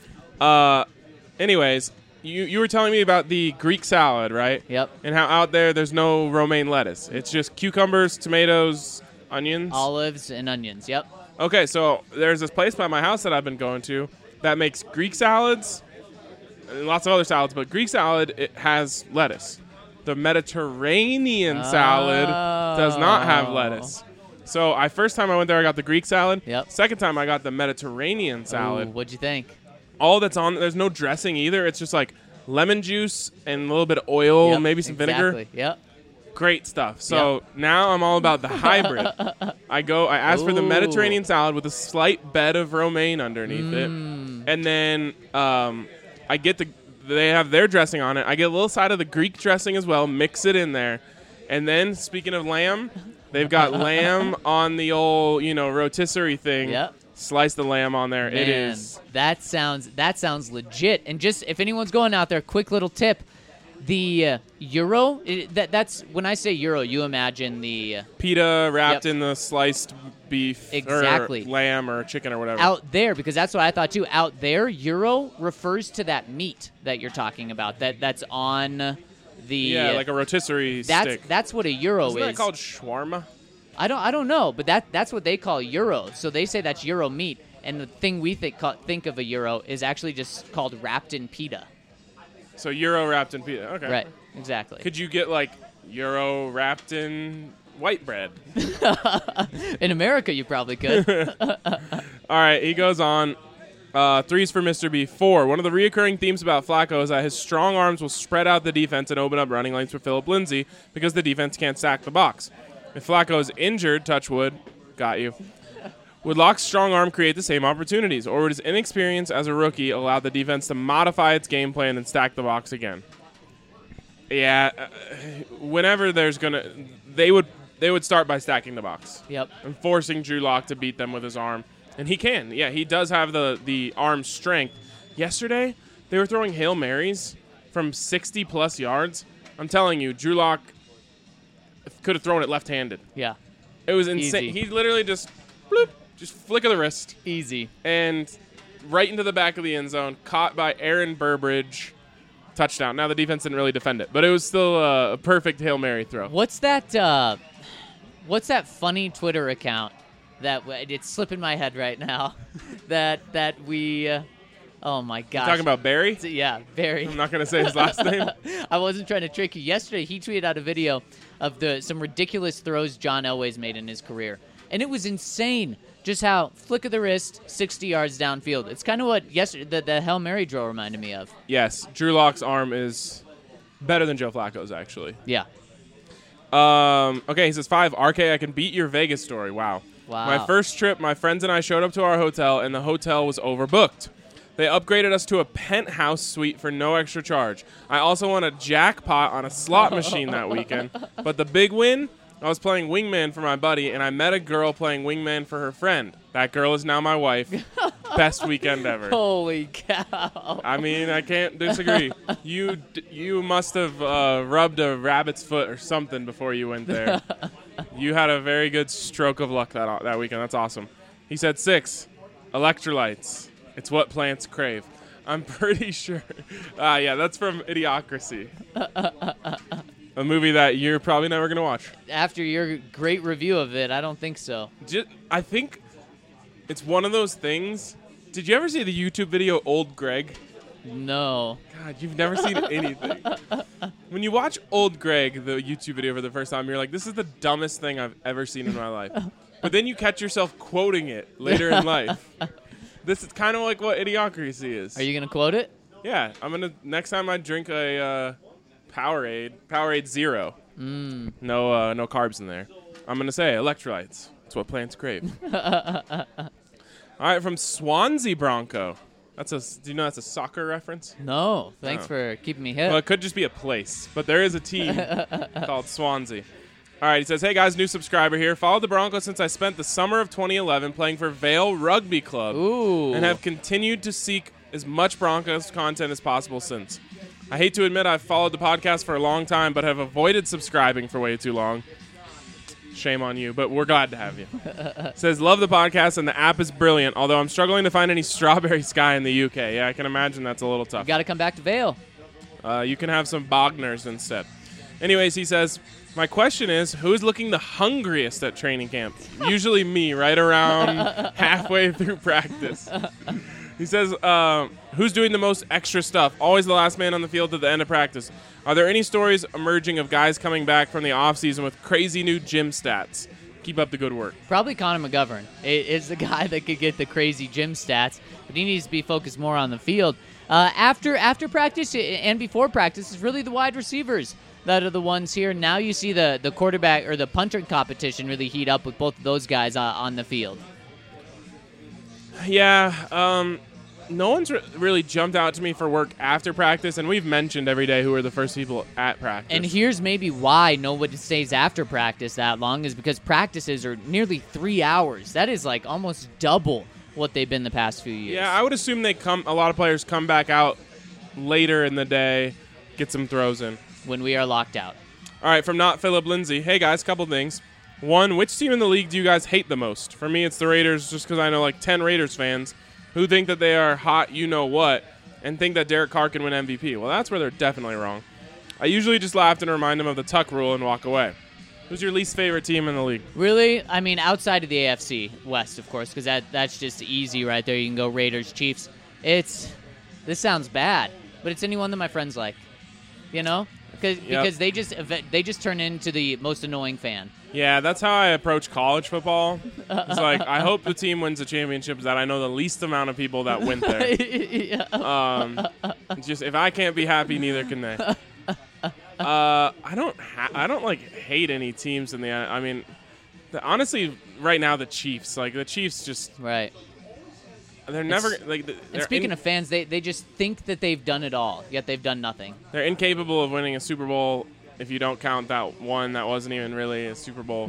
Anyways, you were telling me about the Greek salad, right? Yep. And how out there's no romaine lettuce. It's just cucumbers, tomatoes, onions. Olives and onions. Yep. Okay, so there's this place by my house that I've been going to that makes Greek salads. And lots of other salads, but Greek salad, it has lettuce. The Mediterranean salad does not have lettuce. So first time I went there, I got the Greek salad. Yep. Second time, I got the Mediterranean salad. Ooh, what'd you think? All that's on, there's no dressing either. It's just like lemon juice and a little bit of oil, maybe some vinegar. Yep. Great stuff. So now I'm all about the hybrid. I ask for the Mediterranean salad with a slight bed of romaine underneath it. And then I get they have their dressing on it. I get a little side of the Greek dressing as well, mix it in there. And then, speaking of lamb, they've got lamb on the old, rotisserie thing. Yep. Slice the lamb on there. Man, it is. That sounds legit. And just, if anyone's going out there, quick little tip. The gyro, that's when I say gyro, you imagine the pita wrapped in the sliced beef exactly. or lamb or chicken or whatever. Out there, because that's what I thought too. Out there, gyro refers to that meat that you're talking about. That's on the like a rotisserie stick. That's what a gyro is. Isn't that called shawarma? I don't know, but that's what they call gyro. So they say that's gyro meat, and the thing we think of a gyro is actually just called wrapped in pita. So gyro wrapped in pita. Okay. Right. Exactly. Could you get like gyro wrapped in white bread? In America, you probably could. All right. He goes on. 3's for Mr. B. 4. One of the reoccurring themes about Flacco is that his strong arms will spread out the defense and open up running lanes for Philip Lindsay because the defense can't sack the box. If Flacco is injured, touch wood, got you. Would Locke's strong arm create the same opportunities, or would his inexperience as a rookie allow the defense to modify its game plan and stack the box again? Yeah, whenever they would start by stacking the box. Yep. And forcing Drew Lock to beat them with his arm. And he can. Yeah, he does have the arm strength. Yesterday, they were throwing Hail Marys from 60-plus yards. I'm telling you, Drew Lock could have thrown it left-handed. Yeah. It was insane. Easy. He literally just, bloop, just flick of the wrist. Easy. And right into the back of the end zone, caught by Aaron Burbridge. Touchdown. Now the defense didn't really defend it, but it was still a perfect Hail Mary throw. What's that funny Twitter account that it's slipping my head right now that we oh my gosh. You're talking about Barry? Yeah, Barry. I'm not going to say his last name. I wasn't trying to trick you. Yesterday he tweeted out a video of some ridiculous throws John Elway's made in his career. And it was insane just how flick of the wrist, 60 yards downfield. It's kind of what yesterday the Hail Mary drill reminded me of. Yes, Drew Lock's arm is better than Joe Flacco's, actually. Yeah. Okay, he says 5. RK, I can beat your Vegas story. Wow. Wow. My first trip, my friends and I showed up to our hotel, and the hotel was overbooked. They upgraded us to a penthouse suite for no extra charge. I also won a jackpot on a slot machine that weekend. But the big win, I was playing Wingman for my buddy, and I met a girl playing Wingman for her friend. That girl is now my wife. Best weekend ever. Holy cow. I mean, I can't disagree. You must have rubbed a rabbit's foot or something before you went there. You had a very good stroke of luck that weekend. That's awesome. He said 6, electrolytes. It's what plants crave. I'm pretty sure. Yeah, that's from Idiocracy. A movie that you're probably never going to watch. After your great review of it, I don't think so. I think it's one of those things. Did you ever see the YouTube video Old Greg? No. God, you've never seen anything. When you watch Old Greg, the YouTube video for the first time, you're like, this is the dumbest thing I've ever seen in my life. But then you catch yourself quoting it later in life. This is kind of like what Idiocracy is. Are you going to quote it? Yeah. Next time I drink a Powerade Zero. No carbs in there. I'm going to say electrolytes. It's what plants crave. All right, from Swansea Bronco. Do you know that's a soccer reference? No. Thanks for keeping me hip. Well, it could just be a place, but there is a team called Swansea. All right, he says, hey, guys, new subscriber here. Followed the Broncos since I spent the summer of 2011 playing for Vale Rugby Club. Ooh. And have continued to seek as much Broncos content as possible since. I hate to admit I've followed the podcast for a long time, but have avoided subscribing for way too long. Shame on you, but we're glad to have you. Says, love the podcast, and the app is brilliant, although I'm struggling to find any Strawberry Sky in the UK. Yeah, I can imagine that's a little tough. You got to come back to Vale. You can have some Bogners instead. Anyways, he says, my question is, who's looking the hungriest at training camp? Usually me, right around halfway through practice. He says, who's doing the most extra stuff? Always the last man on the field at the end of practice. Are there any stories emerging of guys coming back from the offseason with crazy new gym stats? Keep up the good work. Probably Connor McGovern is the guy that could get the crazy gym stats, but he needs to be focused more on the field. After practice and before practice, it's really the wide receivers that are the ones here. Now you see the quarterback or the punter competition really heat up with both of those guys on the field. Yeah, no one's really jumped out to me for work after practice, and we've mentioned every day who are the first people at practice. And here's maybe why nobody stays after practice that long is because practices are nearly 3 hours. That is like almost double what they've been the past few years. Yeah, I would assume a lot of players come back out later in the day, get some throws in. When we are locked out. All right, from Not Philip Lindsay. Hey, guys, couple things. One, which team in the league do you guys hate the most? For me, it's the Raiders, just because I know like 10 Raiders fans who think that they are hot you-know-what and think that Derek Carr can win MVP. Well, that's where they're definitely wrong. I usually just laugh and remind them of the Tuck rule and walk away. Who's your least favorite team in the league? Really? I mean, outside of the AFC West, of course, because that's just easy right there. You can go Raiders, Chiefs. This sounds bad, but it's anyone that my friends like, you know? Because they just turn into the most annoying fan. Yeah, that's how I approach college football. It's like, I hope the team wins the championship that I know the least amount of people that went there. Yeah. Just if I can't be happy, neither can they. I don't like hate any teams in the. I mean, honestly, right now the Chiefs. Like the Chiefs, just right. They're never like. And speaking of fans, they just think that they've done it all, yet they've done nothing. They're incapable of winning a Super Bowl if you don't count that one that wasn't even really a Super Bowl.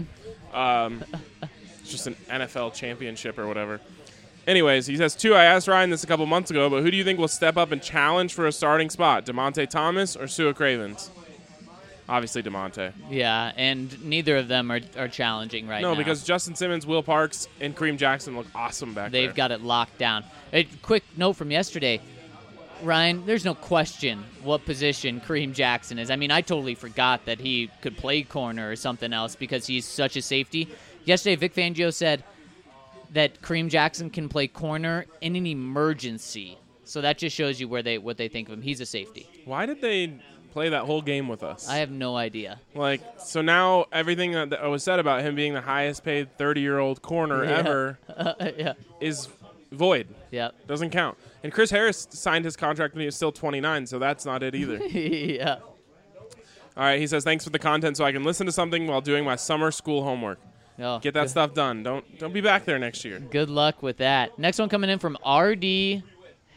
It's just an NFL championship or whatever. Anyways, he says, 2, I asked Ryan this a couple months ago, but who do you think will step up and challenge for a starting spot, DeMonte Thomas or Sua Cravens? Obviously DeMonte. Yeah, and neither of them are challenging right now. No, because Justin Simmons, Will Parks, and Kareem Jackson look awesome back there. They've got it locked down. A quick note from yesterday. Ryan, there's no question what position Kareem Jackson is. I mean, I totally forgot that he could play corner or something else because he's such a safety. Yesterday, Vic Fangio said that Kareem Jackson can play corner in an emergency. So that just shows you what they think of him. He's a safety. Why did they play that whole game with us? I have no idea. Like, so now everything that was said about him being the highest paid 30-year-old corner ever is void. Yeah. Doesn't count. And Chris Harris signed his contract when he was still 29, so that's not it either. Yeah. All right, he says, thanks for the content so I can listen to something while doing my summer school homework. Oh, Get that stuff done. Don't be back there next year. Good luck with that. Next one coming in from R.D.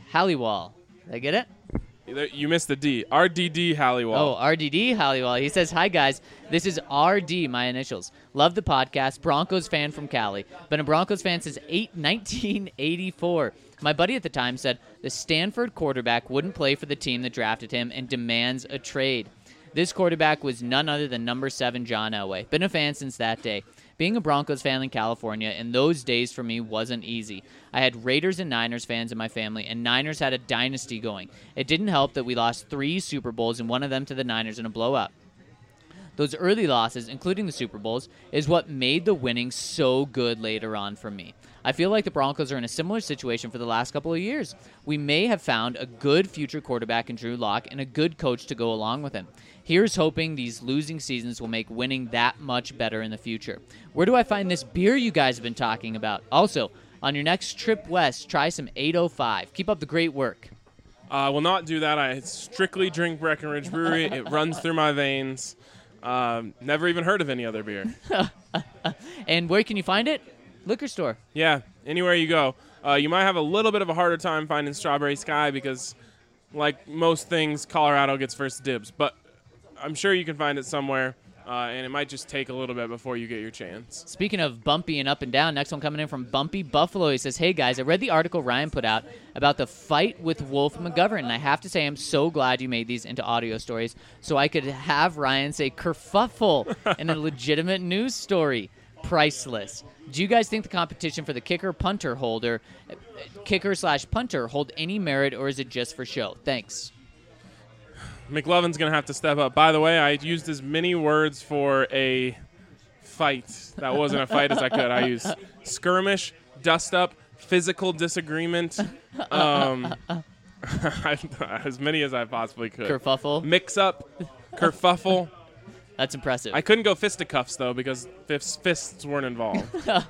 Halliwell. Did I get it? You missed the D. RDD Halliwell. Oh, RDD Halliwell. He says, "Hi, guys. This is RD, my initials. Love the podcast. Broncos fan from Cali. Been a Broncos fan since 1984. My buddy at the time said the Stanford quarterback wouldn't play for the team that drafted him and demands a trade. This quarterback was none other than number 7 John Elway. Been a fan since that day. Being a Broncos fan in California in those days for me wasn't easy. I had Raiders and Niners fans in my family, and Niners had a dynasty going. It didn't help that we lost 3 Super Bowls and one of them to the Niners in a blowout. Those early losses, including the Super Bowls, is what made the winning so good later on for me. I feel like the Broncos are in a similar situation for the last couple of years. We may have found a good future quarterback in Drew Lock and a good coach to go along with him. Here's hoping these losing seasons will make winning that much better in the future. Where do I find this beer you guys have been talking about? Also, on your next trip west, try some 805. Keep up the great work." I will not do that. I strictly drink Breckenridge Brewery. It runs through my veins. Never even heard of any other beer. And where can you find it? Liquor store. Yeah, anywhere you go. You might have a little bit of a harder time finding Strawberry Sky because, like most things, Colorado gets first dibs. But I'm sure you can find it somewhere, and it might just take a little bit before you get your chance. Speaking of bumpy and up and down, next one coming in from Bumpy Buffalo. He says, "Hey guys, I read the article Ryan put out about the fight with Wolf McGovern, and I have to say I'm so glad you made these into audio stories so I could have Ryan say kerfuffle in a legitimate news story. Priceless. Do you guys think the competition for the kicker/punter hold any merit, or is it just for show? Thanks." McLovin's going to have to step up. By the way, I used as many words for a fight that wasn't a fight as I could. I used skirmish, dust-up, physical disagreement, as many as I possibly could. Kerfuffle. Mix-up, kerfuffle. That's impressive. I couldn't go fisticuffs, though, because fists weren't involved.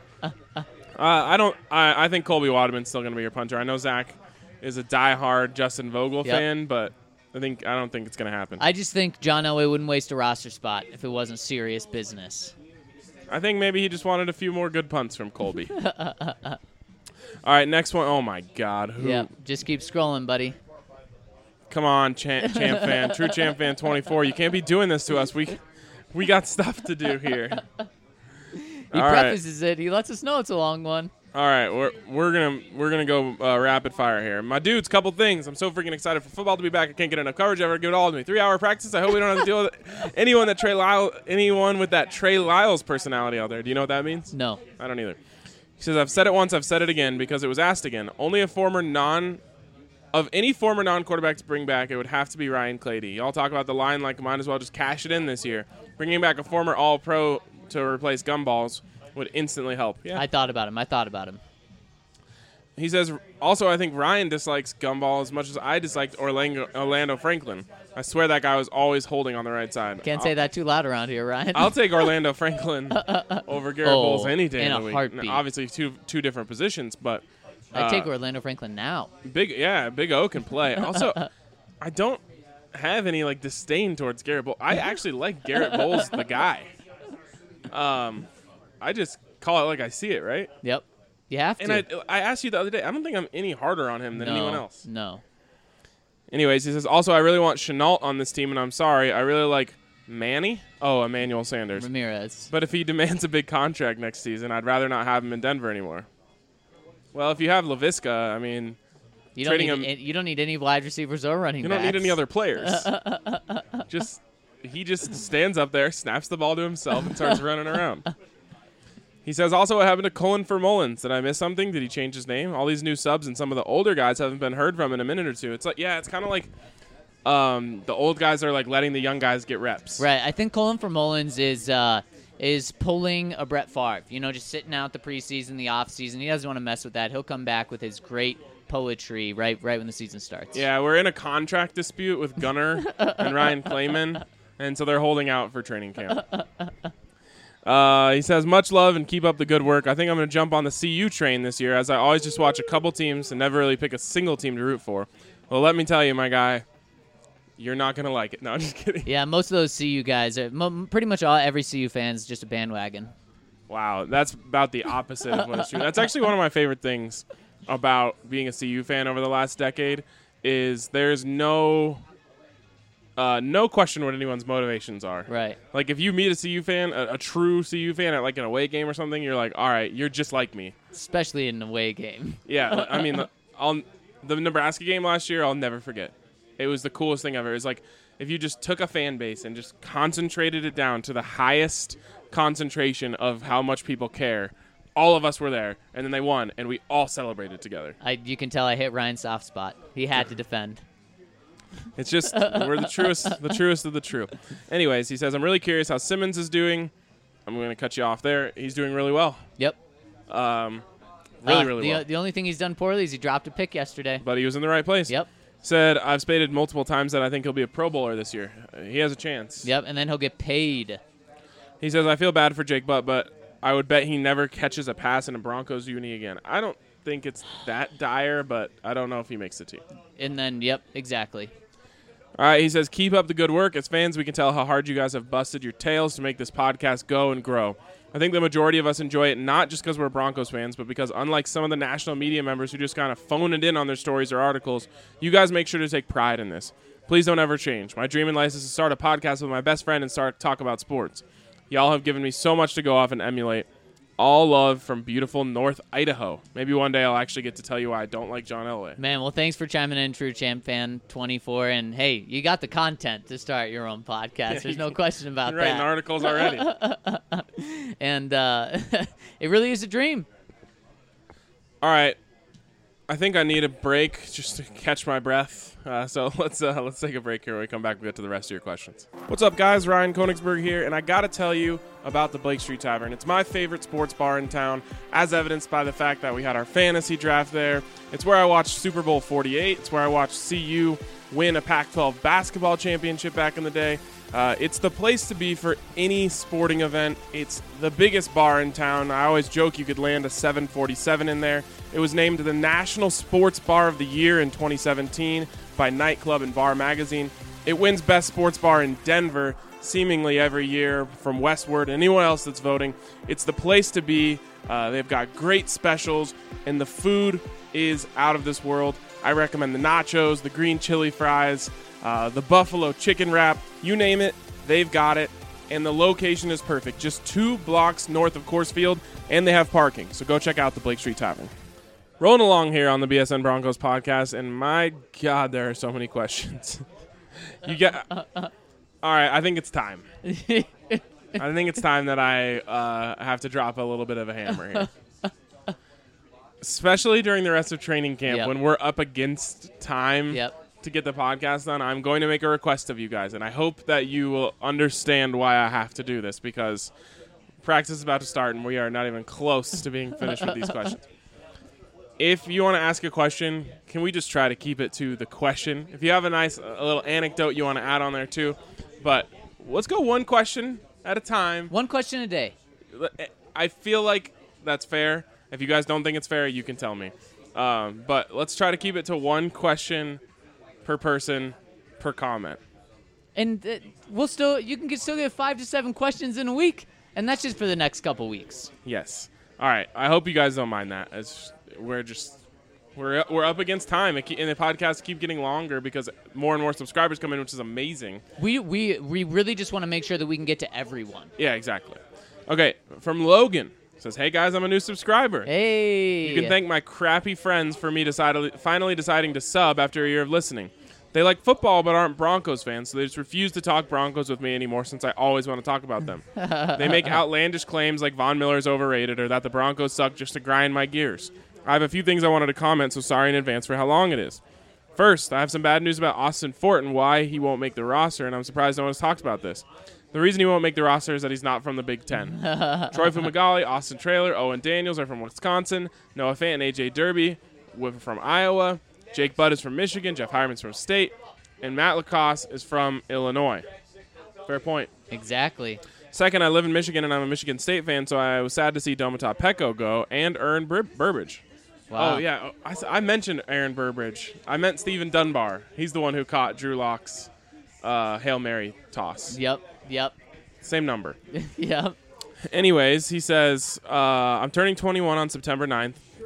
I think Colby Waterman's still going to be your punter. I know Zach is a diehard Justin Vogel fan, but I don't think it's going to happen. I just think John Elway wouldn't waste a roster spot if it wasn't serious business. I think maybe he just wanted a few more good punts from Colby. All right, next one. Oh, my God. Who? Yeah, just keep scrolling, buddy. Come on, Champ Fan. True Champ Fan 24. You can't be doing this to us. We got stuff to do here. He prefaces it. He lets us know it's a long one. All right, we're gonna go rapid fire here. My dudes, couple things. I'm so freaking excited for football to be back. I can't get enough coverage ever. Give it all to me. 3-hour practice. I hope we don't have to deal with anyone with that Trey Lyles personality out there. Do you know what that means? No. I don't either. He says, "I've said it once. I've said it again because it was asked again. Only any former non-quarterback to bring back, it would have to be Ryan Clady. Y'all talk about the line like might as well just cash it in this year. Bringing back a former All-Pro to replace Gumballs would instantly help." Yeah. I thought about him. He says, also, I think Ryan dislikes Gumball as much as I disliked Orlando Franklin. I swear that guy was always holding on the right side. Can't say that too loud around here, Ryan. I'll take Orlando Franklin over Garrett Bowles any day in of a the week. heartbeat. Now, obviously, two different positions, but I'd take Orlando Franklin now. Big O can play. Also, I don't have any disdain towards Garrett Bowles. I actually like Garrett Bowles, the guy. I just call it like I see it, right? Yep. You have to. And I asked you the other day, I don't think I'm any harder on him than anyone else. No. Anyways, he says, also, I really want Chenault on this team, and I'm sorry. I really like Manny. Oh, Emmanuel Sanders. Ramirez. But if he demands a big contract next season, I'd rather not have him in Denver anymore. Well, if you have LaVisca, I mean, you don't need any wide receivers or running backs. You don't need any other players. He just stands up there, snaps the ball to himself, and starts running around. He says, also, what happened to Cullen for Mullins? Did I miss something? Did he change his name? All these new subs and some of the older guys haven't been heard from in a minute or two. It's it's kind of like the old guys are letting the young guys get reps. Right. I think Cullen for Mullins is pulling a Brett Favre. Just sitting out the preseason, the offseason. He doesn't want to mess with that. He'll come back with his great poetry right when the season starts. Yeah, we're in a contract dispute with Gunnar and Ryan Clayman, and so they're holding out for training camp. He says, much love and keep up the good work. I think I'm going to jump on the CU train this year, as I always just watch a couple teams and never really pick a single team to root for. Well, let me tell you, my guy, you're not going to like it. No, I'm just kidding. Yeah, most of those CU guys, pretty much every CU fan is just a bandwagon. Wow, that's about the opposite of what is true. That's actually one of my favorite things about being a CU fan over the last decade is there's no question what anyone's motivations are. Right. Like, if you meet a CU fan, a true CU fan at, like, an away game or something, you're like, all right, you're just like me. Especially in an away game. Yeah, I mean, the Nebraska game last year, I'll never forget. It was the coolest thing ever. It was like if you just took a fan base and just concentrated it down to the highest concentration of how much people care. All of us were there, and then they won, and we all celebrated together. You can tell I hit Ryan's soft spot. He had to defend. It's just we're the truest of the true. Anyways, he says, I'm really curious how Simmons is doing. I'm going to cut you off there. He's doing really well. Yep. Really well. The only thing he's done poorly is he dropped a pick yesterday. But he was in the right place. Yep. Said, I've stated multiple times that I think he'll be a Pro Bowler this year. He has a chance. Yep, and then he'll get paid. He says, I feel bad for Jake Butt, but I would bet he never catches a pass in a Broncos uni again. I don't think it's that dire, but I don't know if he makes the team. And then, yep, exactly. All right, he says, keep up the good work. As fans, we can tell how hard you guys have busted your tails to make this podcast go and grow. I think the majority of us enjoy it not just because we're Broncos fans, but because unlike some of the national media members who just kind of phone it in on their stories or articles, you guys make sure to take pride in this. Please don't ever change. My dream in life is to start a podcast with my best friend and start talk about sports. Y'all have given me so much to go off and emulate. All love from beautiful North Idaho. Maybe one day I'll actually get to tell you why I don't like John Elway. Man, well, thanks for chiming in, True Champ Fan 24. And, hey, you got the content to start your own podcast. There's no question about You're writing that. articles already. And it really is a dream. All right. I think I need a break just to catch my breath. So let's take a break here. When we come back, we'll get to the rest of your questions. What's up, guys? Ryan Koenigsberg here, and I got to tell you about the Blake Street Tavern. It's my favorite sports bar in town, as evidenced by the fact that we had our fantasy draft there. It's where I watched Super Bowl 48. It's where I watched CU win a Pac-12 basketball championship back in the day. It's the place to be for any sporting event. It's the biggest bar in town. I always joke you could land a 747 in there. It was named the National Sports Bar of the Year in 2017 by Nightclub and Bar Magazine. It wins Best Sports Bar in Denver seemingly every year from Westward. Anyone else that's voting, it's the place to be. They've got great specials, and the food is out of this world. I recommend the nachos, the green chili fries, the buffalo chicken wrap, you name it, they've got it. And the location is perfect, just 2 blocks north of Coors Field, and they have parking. So go check out the Blake Street Tavern. Rolling along here on the BSN Broncos podcast, and my God, there are so many questions. All right, I think it's time. I think it's time that I have to drop a little bit of a hammer here. Especially during the rest of training camp when we're up against time to get the podcast done, I'm going to make a request of you guys, and I hope that you will understand why I have to do this, because practice is about to start, and we are not even close to being finished with these questions. If you want to ask a question, can we just try to keep it to the question? If you have a little anecdote you want to add on there too, but let's go one question at a time. One question a day. I feel like that's fair. If you guys don't think it's fair, you can tell me. But let's try to keep it to one question per person per comment. And you can still get 5 to 7 questions in a week, and that's just for the next couple weeks. Yes. All right. I hope you guys don't mind that. We're up against time, and the podcasts keep getting longer because more and more subscribers come in, which is amazing. We really just want to make sure that we can get to everyone. Yeah, exactly. Okay, from Logan. Says, hey, guys, I'm a new subscriber. Hey. You can thank my crappy friends for me finally deciding to sub after a year of listening. They like football but aren't Broncos fans, so they just refuse to talk Broncos with me anymore since I always want to talk about them. They make outlandish claims like Von Miller's overrated or that the Broncos suck just to grind my gears. I have a few things I wanted to comment, so sorry in advance for how long it is. First, I have some bad news about Austin Fort and why he won't make the roster, and I'm surprised no one has talked about this. The reason he won't make the roster is that he's not from the Big Ten. Troy Fumagalli, Austin Traylor, Owen Daniels are from Wisconsin, Noah Fant and A.J. Derby from Iowa, Jake Butt is from Michigan, Jeff Hyman's from State, and Matt Lacoste is from Illinois. Fair point. Exactly. Second, I live in Michigan, and I'm a Michigan State fan, so I was sad to see Domata Peko go and Aaron Burbridge. Wow. Oh, yeah. I mentioned Aaron Burbridge. I meant Stephen Dunbar. He's the one who caught Drew Lock's Hail Mary toss. Yep. Same number. Yep. Anyways, he says, I'm turning 21 on September 9th.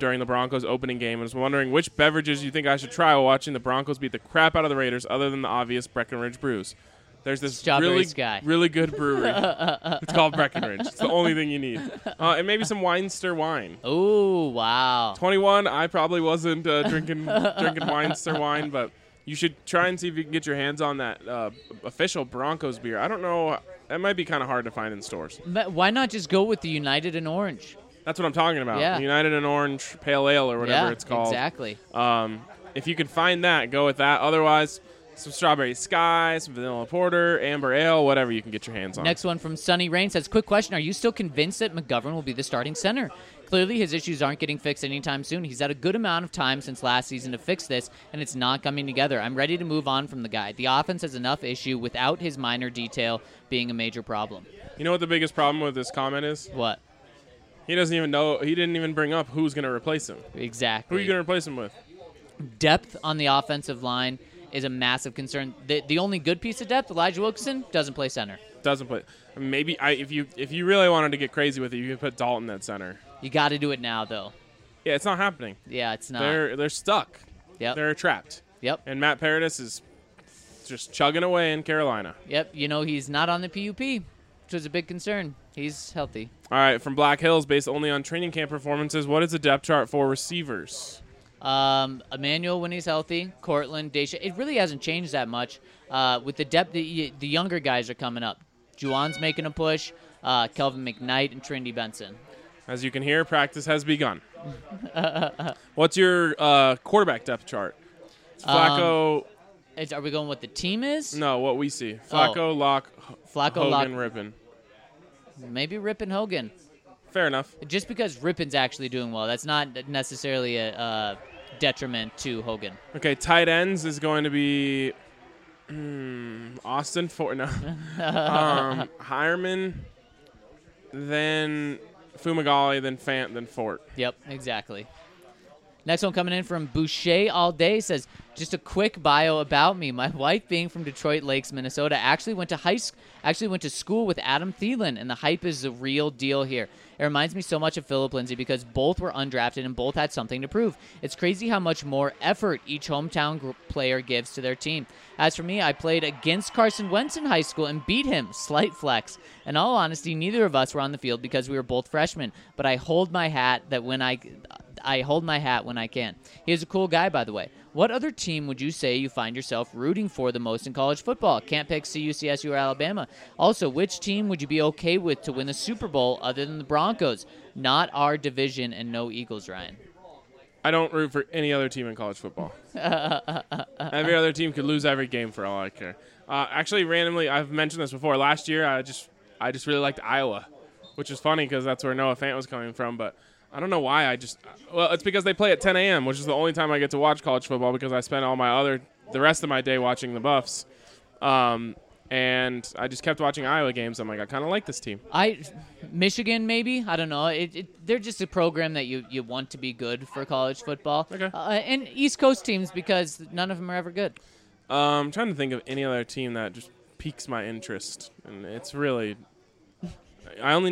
during the Broncos opening game and was wondering which beverages you think I should try while watching the Broncos beat the crap out of the Raiders other than the obvious Breckenridge brews. There's this Strawberry Sky. really good brewery. It's called Breckenridge. It's the only thing you need. And maybe some Weinster wine. Oh, wow. 21, I probably wasn't drinking Weinster wine, but you should try and see if you can get your hands on that official Broncos beer. I don't know. That might be kind of hard to find in stores. But why not just go with the United and Orange? That's what I'm talking about. Yeah. United and Orange Pale Ale or whatever it's called. Exactly. If you can find that, go with that. Otherwise, some Strawberry Sky, some Vanilla Porter, Amber Ale, whatever you can get your hands on. Next one from Sunny Rain says, quick question, are you still convinced that McGovern will be the starting center? Clearly his issues aren't getting fixed anytime soon. He's had a good amount of time since last season to fix this, and it's not coming together. I'm ready to move on from the guy. The offense has enough issue without his minor detail being a major problem. You know what the biggest problem with this comment is? What? He doesn't even know. He didn't even bring up who's going to replace him. Exactly. Who are you going to replace him with? Depth on the offensive line is a massive concern. The only good piece of depth, Elijah Wilkinson, doesn't play center. Doesn't play. Maybe if you really wanted to get crazy with it, you could put Dalton at center. You got to do it now, though. Yeah, it's not happening. Yeah, it's not. They're stuck. Yep. They're trapped. Yep. And Matt Paradis is just chugging away in Carolina. Yep. You know, he's not on the PUP, which was a big concern. He's healthy. All right, from Black Hills, based only on training camp performances, what is the depth chart for receivers? Emmanuel when he's healthy, Cortland, Daisha. It really hasn't changed that much. With the depth, the younger guys are coming up. Juwan's making a push. Kelvin McKnight and Trinity Benson. As you can hear, practice has begun. What's your quarterback depth chart? It's Flacco. Are we going what the team is? No, what we see. Flacco, Locke, Flacco, Hogan, Locke. Rippon. Maybe Rippon Hogan. Fair enough. Just because Rippon's actually doing well, that's not necessarily a detriment to Hogan. Okay, tight ends is going to be Austin Fort. No, Hireman, then Fumagalli, then Fant, then Fort. Yep, exactly. Next one coming in from Boucher All Day says, just a quick bio about me. My wife, being from Detroit Lakes, Minnesota, actually went to school with Adam Thielen, and the hype is the real deal here. It reminds me so much of Philip Lindsay because both were undrafted and both had something to prove. It's crazy how much more effort each hometown player gives to their team. As for me, I played against Carson Wentz in high school and beat him. Slight flex. In all honesty, neither of us were on the field because we were both freshmen, but I hold my hat when I can. He is a cool guy, by the way. What other team would you say you find yourself rooting for the most in college football? Can't pick CU, CSU, or Alabama. Also, which team would you be okay with to win the Super Bowl other than the Broncos? Not our division and no Eagles, Ryan. I don't root for any other team in college football. Every other team could lose every game for all I care. Actually, randomly, I've mentioned this before. Last year, I just really liked Iowa, which is funny because that's where Noah Fant was coming from, but I don't know why. It's because they play at 10 a.m., which is the only time I get to watch college football because I spend the rest of my day watching the Buffs. And I just kept watching Iowa games. I'm like, I kind of like this team. Michigan, maybe? I don't know. They're just a program that you want to be good for college football. Okay. And East Coast teams because none of them are ever good. I'm trying to think of any other team that just piques my interest. And it's really... I'm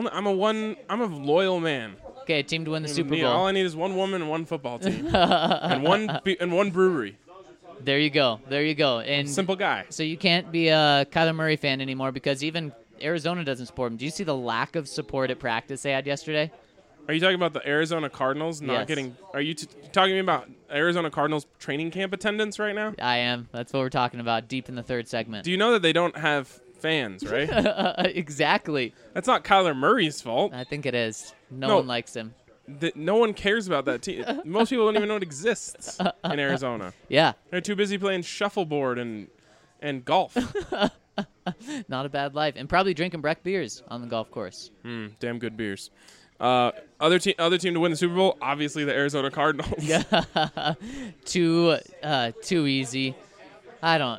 a loyal man. Okay, a team to win the Super Bowl. All I need is one woman and one football team. and one brewery. There you go. And simple guy. So you can't be a Kyler Murray fan anymore because even Arizona doesn't support him. Do you see the lack of support at practice they had yesterday? Are you talking about the Arizona Cardinals not getting... Are you talking to me about Arizona Cardinals training camp attendance right now? I am. That's what we're talking about deep in the third segment. Do you know that they don't have fans, right? Exactly. That's not Kyler Murray's fault. I think it is. No one likes him. No one cares about that team. Most people don't even know it exists in Arizona. Yeah. They're too busy playing shuffleboard and golf. Not a bad life. And probably drinking Breck beers on the golf course. Damn good beers. Other team to win the Super Bowl, obviously the Arizona Cardinals. Yeah. Too easy. I don't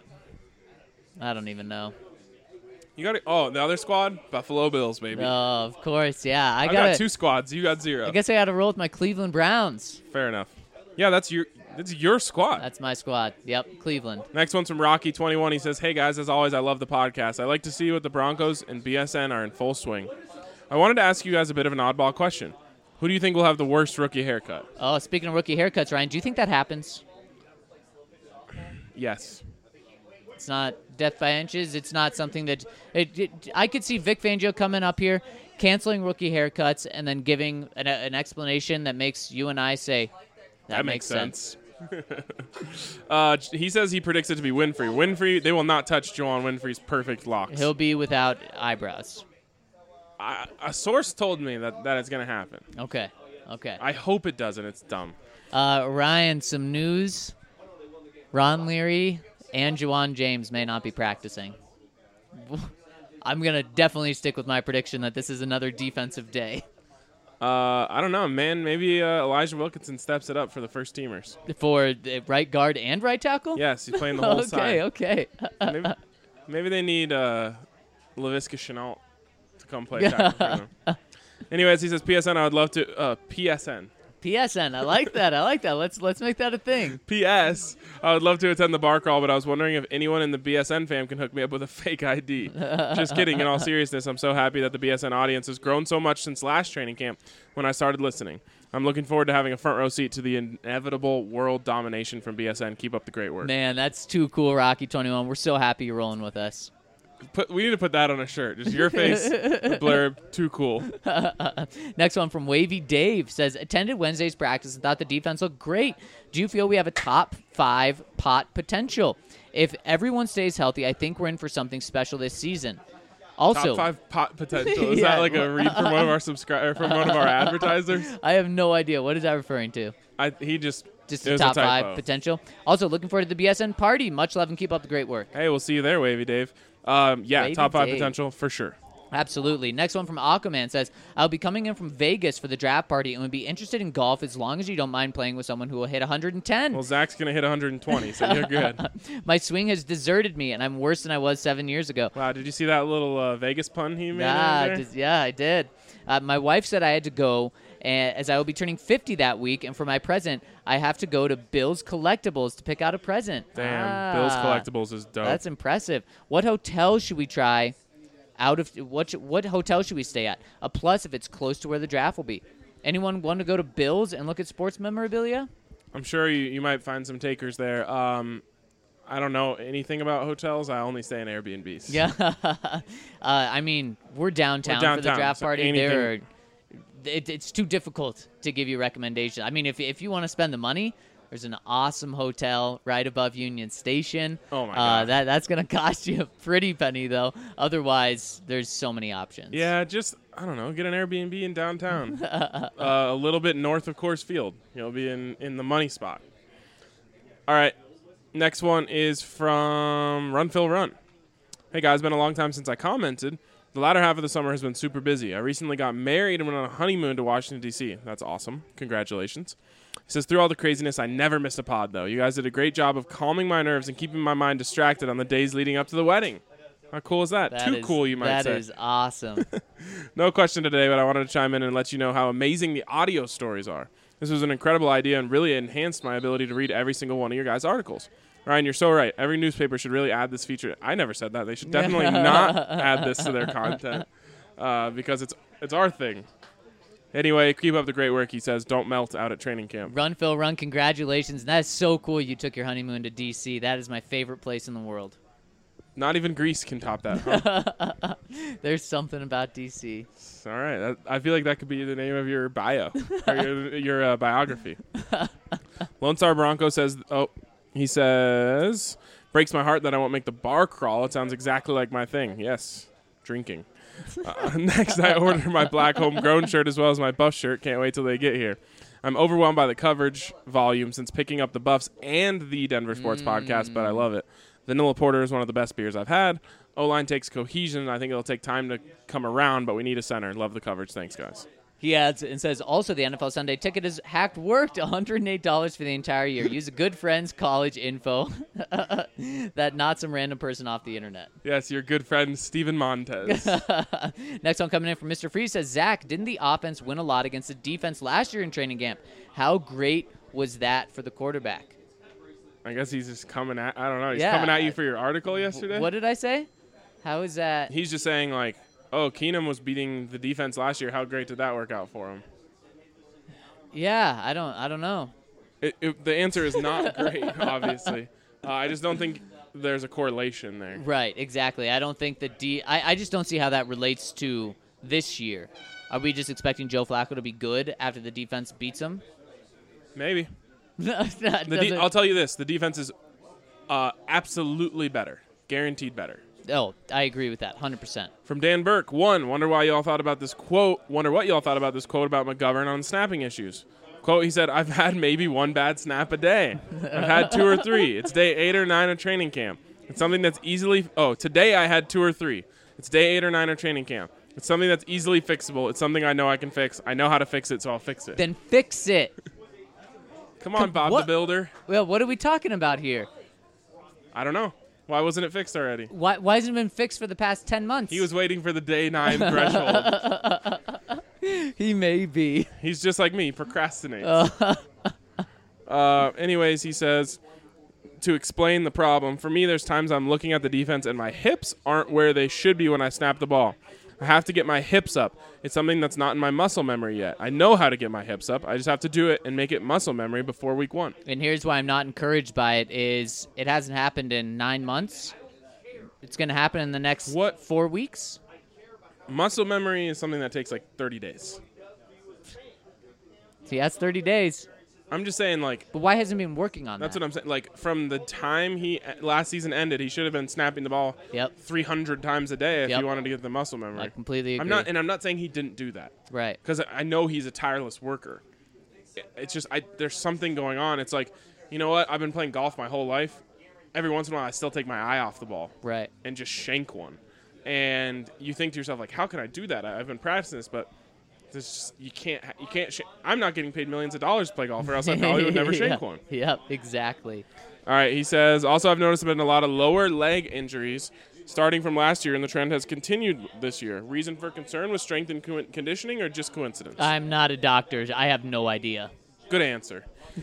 even know. You got it. Oh, the other squad, Buffalo Bills, baby. Oh, of course, yeah. I got two squads. You got zero. I guess I got to roll with my Cleveland Browns. Fair enough. Yeah, that's your squad. That's my squad. Yep, Cleveland. Next one's from Rocky21. He says, "Hey guys, as always, I love the podcast. I like to see what the Broncos and BSN are in full swing. I wanted to ask you guys a bit of an oddball question. Who do you think will have the worst rookie haircut? Oh, speaking of rookie haircuts, Ryan, do you think that happens? Yes. It's not death by inches. It's not something that I could see Vic Fangio coming up here, canceling rookie haircuts, and then giving an explanation that makes you and I say, that makes sense. He says he predicts it to be Winfrey. Winfrey, they will not touch Juwan Winfrey's perfect locks. He'll be without eyebrows. A source told me that it's going to happen. Okay. I hope it doesn't. It's dumb. Ryan, some news. Ron Leary and Juwan James may not be practicing. I'm going to definitely stick with my prediction that this is another defensive day. I don't know, man. Maybe Elijah Wilkinson steps it up for the first teamers. For right guard and right tackle? Yes, he's playing the whole side. Okay. Maybe they need Laviska Shenault to come play tackle for them. Anyways, he says, PSN, I would love to PSN. PSN, I like that. Let's make that a thing. P.S. I would love to attend the bar crawl, but I was wondering if anyone in the BSN fam can hook me up with a fake ID. Just kidding. In all seriousness, I'm so happy that the BSN audience has grown so much since last training camp when I started listening. I'm looking forward to having a front row seat to the inevitable world domination from BSN. Keep up the great work. Man, that's too cool, Rocky 21. We're so happy you're rolling with us. We need to put that on a shirt. Just your face, the blurb, too cool. Next one from Wavy Dave says, attended Wednesday's practice and thought the defense looked great. Do you feel we have a top 5 pot potential? If everyone stays healthy, I think we're in for something special this season. Also, top 5 pot potential. Is that like a read from one of our from one of our advertisers? I have no idea. What is that referring to? Just the top 5 potential. Also, looking forward to the BSN party. Much love and keep up the great work. Hey, we'll see you there, Wavy Dave. Top 5 Dave. potential for sure. Absolutely. Next one from Aquaman says, I'll be coming in from Vegas for the draft party and would be interested in golf as long as you don't mind playing with someone who will hit 110. Well, Zach's going to hit 120, so you're good. My swing has deserted me, and I'm worse than I was 7 years ago. Wow, did you see that little Vegas pun he made there? Yeah, I did. My wife said I had to go, as I will be turning 50 that week, and for my present, I have to go to Bill's Collectibles to pick out a present. Damn, Bill's Collectibles is dope. That's impressive. What hotel should we try? What hotel should we stay at? A plus if it's close to where the draft will be. Anyone want to go to Bill's and look at sports memorabilia? I'm sure you might find some takers there. I don't know anything about hotels. I only stay in Airbnbs. Yeah. I mean, we're downtown for the draft party. It's too difficult to give you recommendations. I mean, if you want to spend the money, there's an awesome hotel right above Union Station. Oh, my God. That's going to cost you a pretty penny, though. Otherwise, there's so many options. Yeah, I don't know, get an Airbnb in downtown. A little bit north of Coors Field. You'll be in the money spot. All right. Next one is from Run Phil Run. Hey, guys, been a long time since I commented. The latter half of the summer has been super busy. I recently got married and went on a honeymoon to Washington, D.C. That's awesome. Congratulations. He says, through all the craziness, I never missed a pod, though. You guys did a great job of calming my nerves and keeping my mind distracted on the days leading up to the wedding. How cool is that? Too cool, you might say. That is awesome. No question today, but I wanted to chime in and let you know how amazing the audio stories are. This was an incredible idea and really enhanced my ability to read every single one of your guys' articles. Ryan, you're so right. Every newspaper should really add this feature. I never said that. They should definitely not add this to their content because it's our thing. Anyway, keep up the great work, he says. Don't melt out at training camp. Run, Phil, run. Congratulations. That is so cool you took your honeymoon to D.C. That is my favorite place in the world. Not even Greece can top that, huh? There's something about D.C. All right. I feel like that could be the name of your bio, or your biography. Lone Star Bronco says, he says, breaks my heart that I won't make the bar crawl. It sounds exactly like my thing. Yes, drinking. Next, I ordered my black homegrown shirt as well as my Buff shirt. Can't wait till they get here. I'm overwhelmed by the coverage volume since picking up the Buffs and the Denver Sports Podcast, but I love it. Vanilla Porter is one of the best beers I've had. O-line takes cohesion. I think it'll take time to come around, but we need a center. Love the coverage. Thanks, guys. He adds and says, also, the NFL Sunday ticket is hacked worked, $108 for the entire year. Use a good friend's college info. That not some random person off the internet. Yes, your good friend, Steven Montez. Next one coming in from Mr. Free says, Zach, didn't the offense win a lot against the defense last year in training camp? How great was that for the quarterback? I guess he's just coming at, I don't know, he's coming at you for your article yesterday? What did I say? How is that? He's just saying, like, oh, Keenum was beating the defense last year. How great did that work out for him? Yeah, I don't know. The answer is not great, obviously. I just don't think there's a correlation there. Right, exactly. I don't think I just don't see how that relates to this year. Are we just expecting Joe Flacco to be good after the defense beats him? Maybe. I'll I'll tell you this. The defense is absolutely better. Guaranteed better. Oh, I agree with that, 100%. From Dan Burke, wonder what y'all thought about this quote about McGovern on snapping issues. Quote, he said, I've had maybe one bad snap a day. I've had 2 or 3. It's day 8 or 9 of training camp. It's something that's easily, today I had 2 or 3. It's day 8 or 9 of training camp. It's something that's easily fixable. It's something I know I can fix. I know how to fix it, so I'll fix it. Then fix it. Come on, Bob the Builder. Well, what are we talking about here? I don't know. Why wasn't it fixed already? Why hasn't it been fixed for the past 10 months? He was waiting for the day 9 threshold. He may be. He's just like me. He procrastinates. Anyways, he says, to explain the problem, for me, there's times I'm looking at the defense and my hips aren't where they should be when I snap the ball. I have to get my hips up. It's something that's not in my muscle memory yet. I know how to get my hips up. I just have to do it and make it muscle memory before week 1. And here's why I'm not encouraged by it is it hasn't happened in 9 months. It's going to happen in the next 4 weeks. Muscle memory is something that takes like 30 days. See, that's 30 days. I'm just saying, But why hasn't he been working on that's that? what I'm saying. From the time last season ended, he should have been snapping the ball 300 times a day if he wanted to get the muscle memory. I completely agree. I'm not saying he didn't do that. Right. Because I know he's a tireless worker. It's just there's something going on. It's like, you know what? I've been playing golf my whole life. Every once in a while, I still take my eye off the ball. Right. And just shank one. And you think to yourself, how can I do that? I've been practicing this, but you can't. I'm not getting paid millions of dollars to play golf, or else I probably would never shank one. Yep, exactly. All right, he says, also I've noticed there have been a lot of lower leg injuries starting from last year, and the trend has continued this year. Reason for concern with strength and conditioning, or just coincidence? I'm not a doctor. I have no idea. Good answer.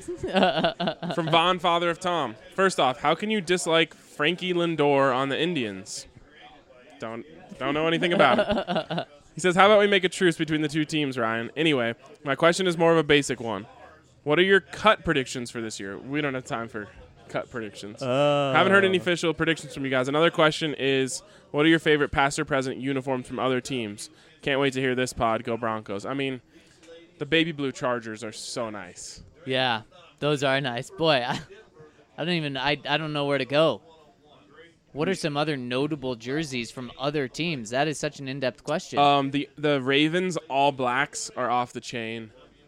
From Vaughn, father of Tom. First off, how can you dislike Frankie Lindor on the Indians? Don't know anything about it. He says, how about we make a truce between the two teams, Ryan? Anyway, my question is more of a basic one. What are your cut predictions for this year? We don't have time for cut predictions. Haven't heard any official predictions from you guys. Another question is, what are your favorite past or present uniforms from other teams? Can't wait to hear this pod. Go Broncos. I mean, the baby blue Chargers are so nice. Yeah, those are nice. Boy, I don't know where to go. What are some other notable jerseys from other teams? That is such an in-depth question. The Ravens All Blacks are off the chain.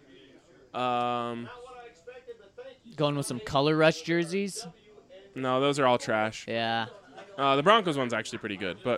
Going with some Color Rush jerseys? No, those are all trash. Yeah. The Broncos one's actually pretty good, but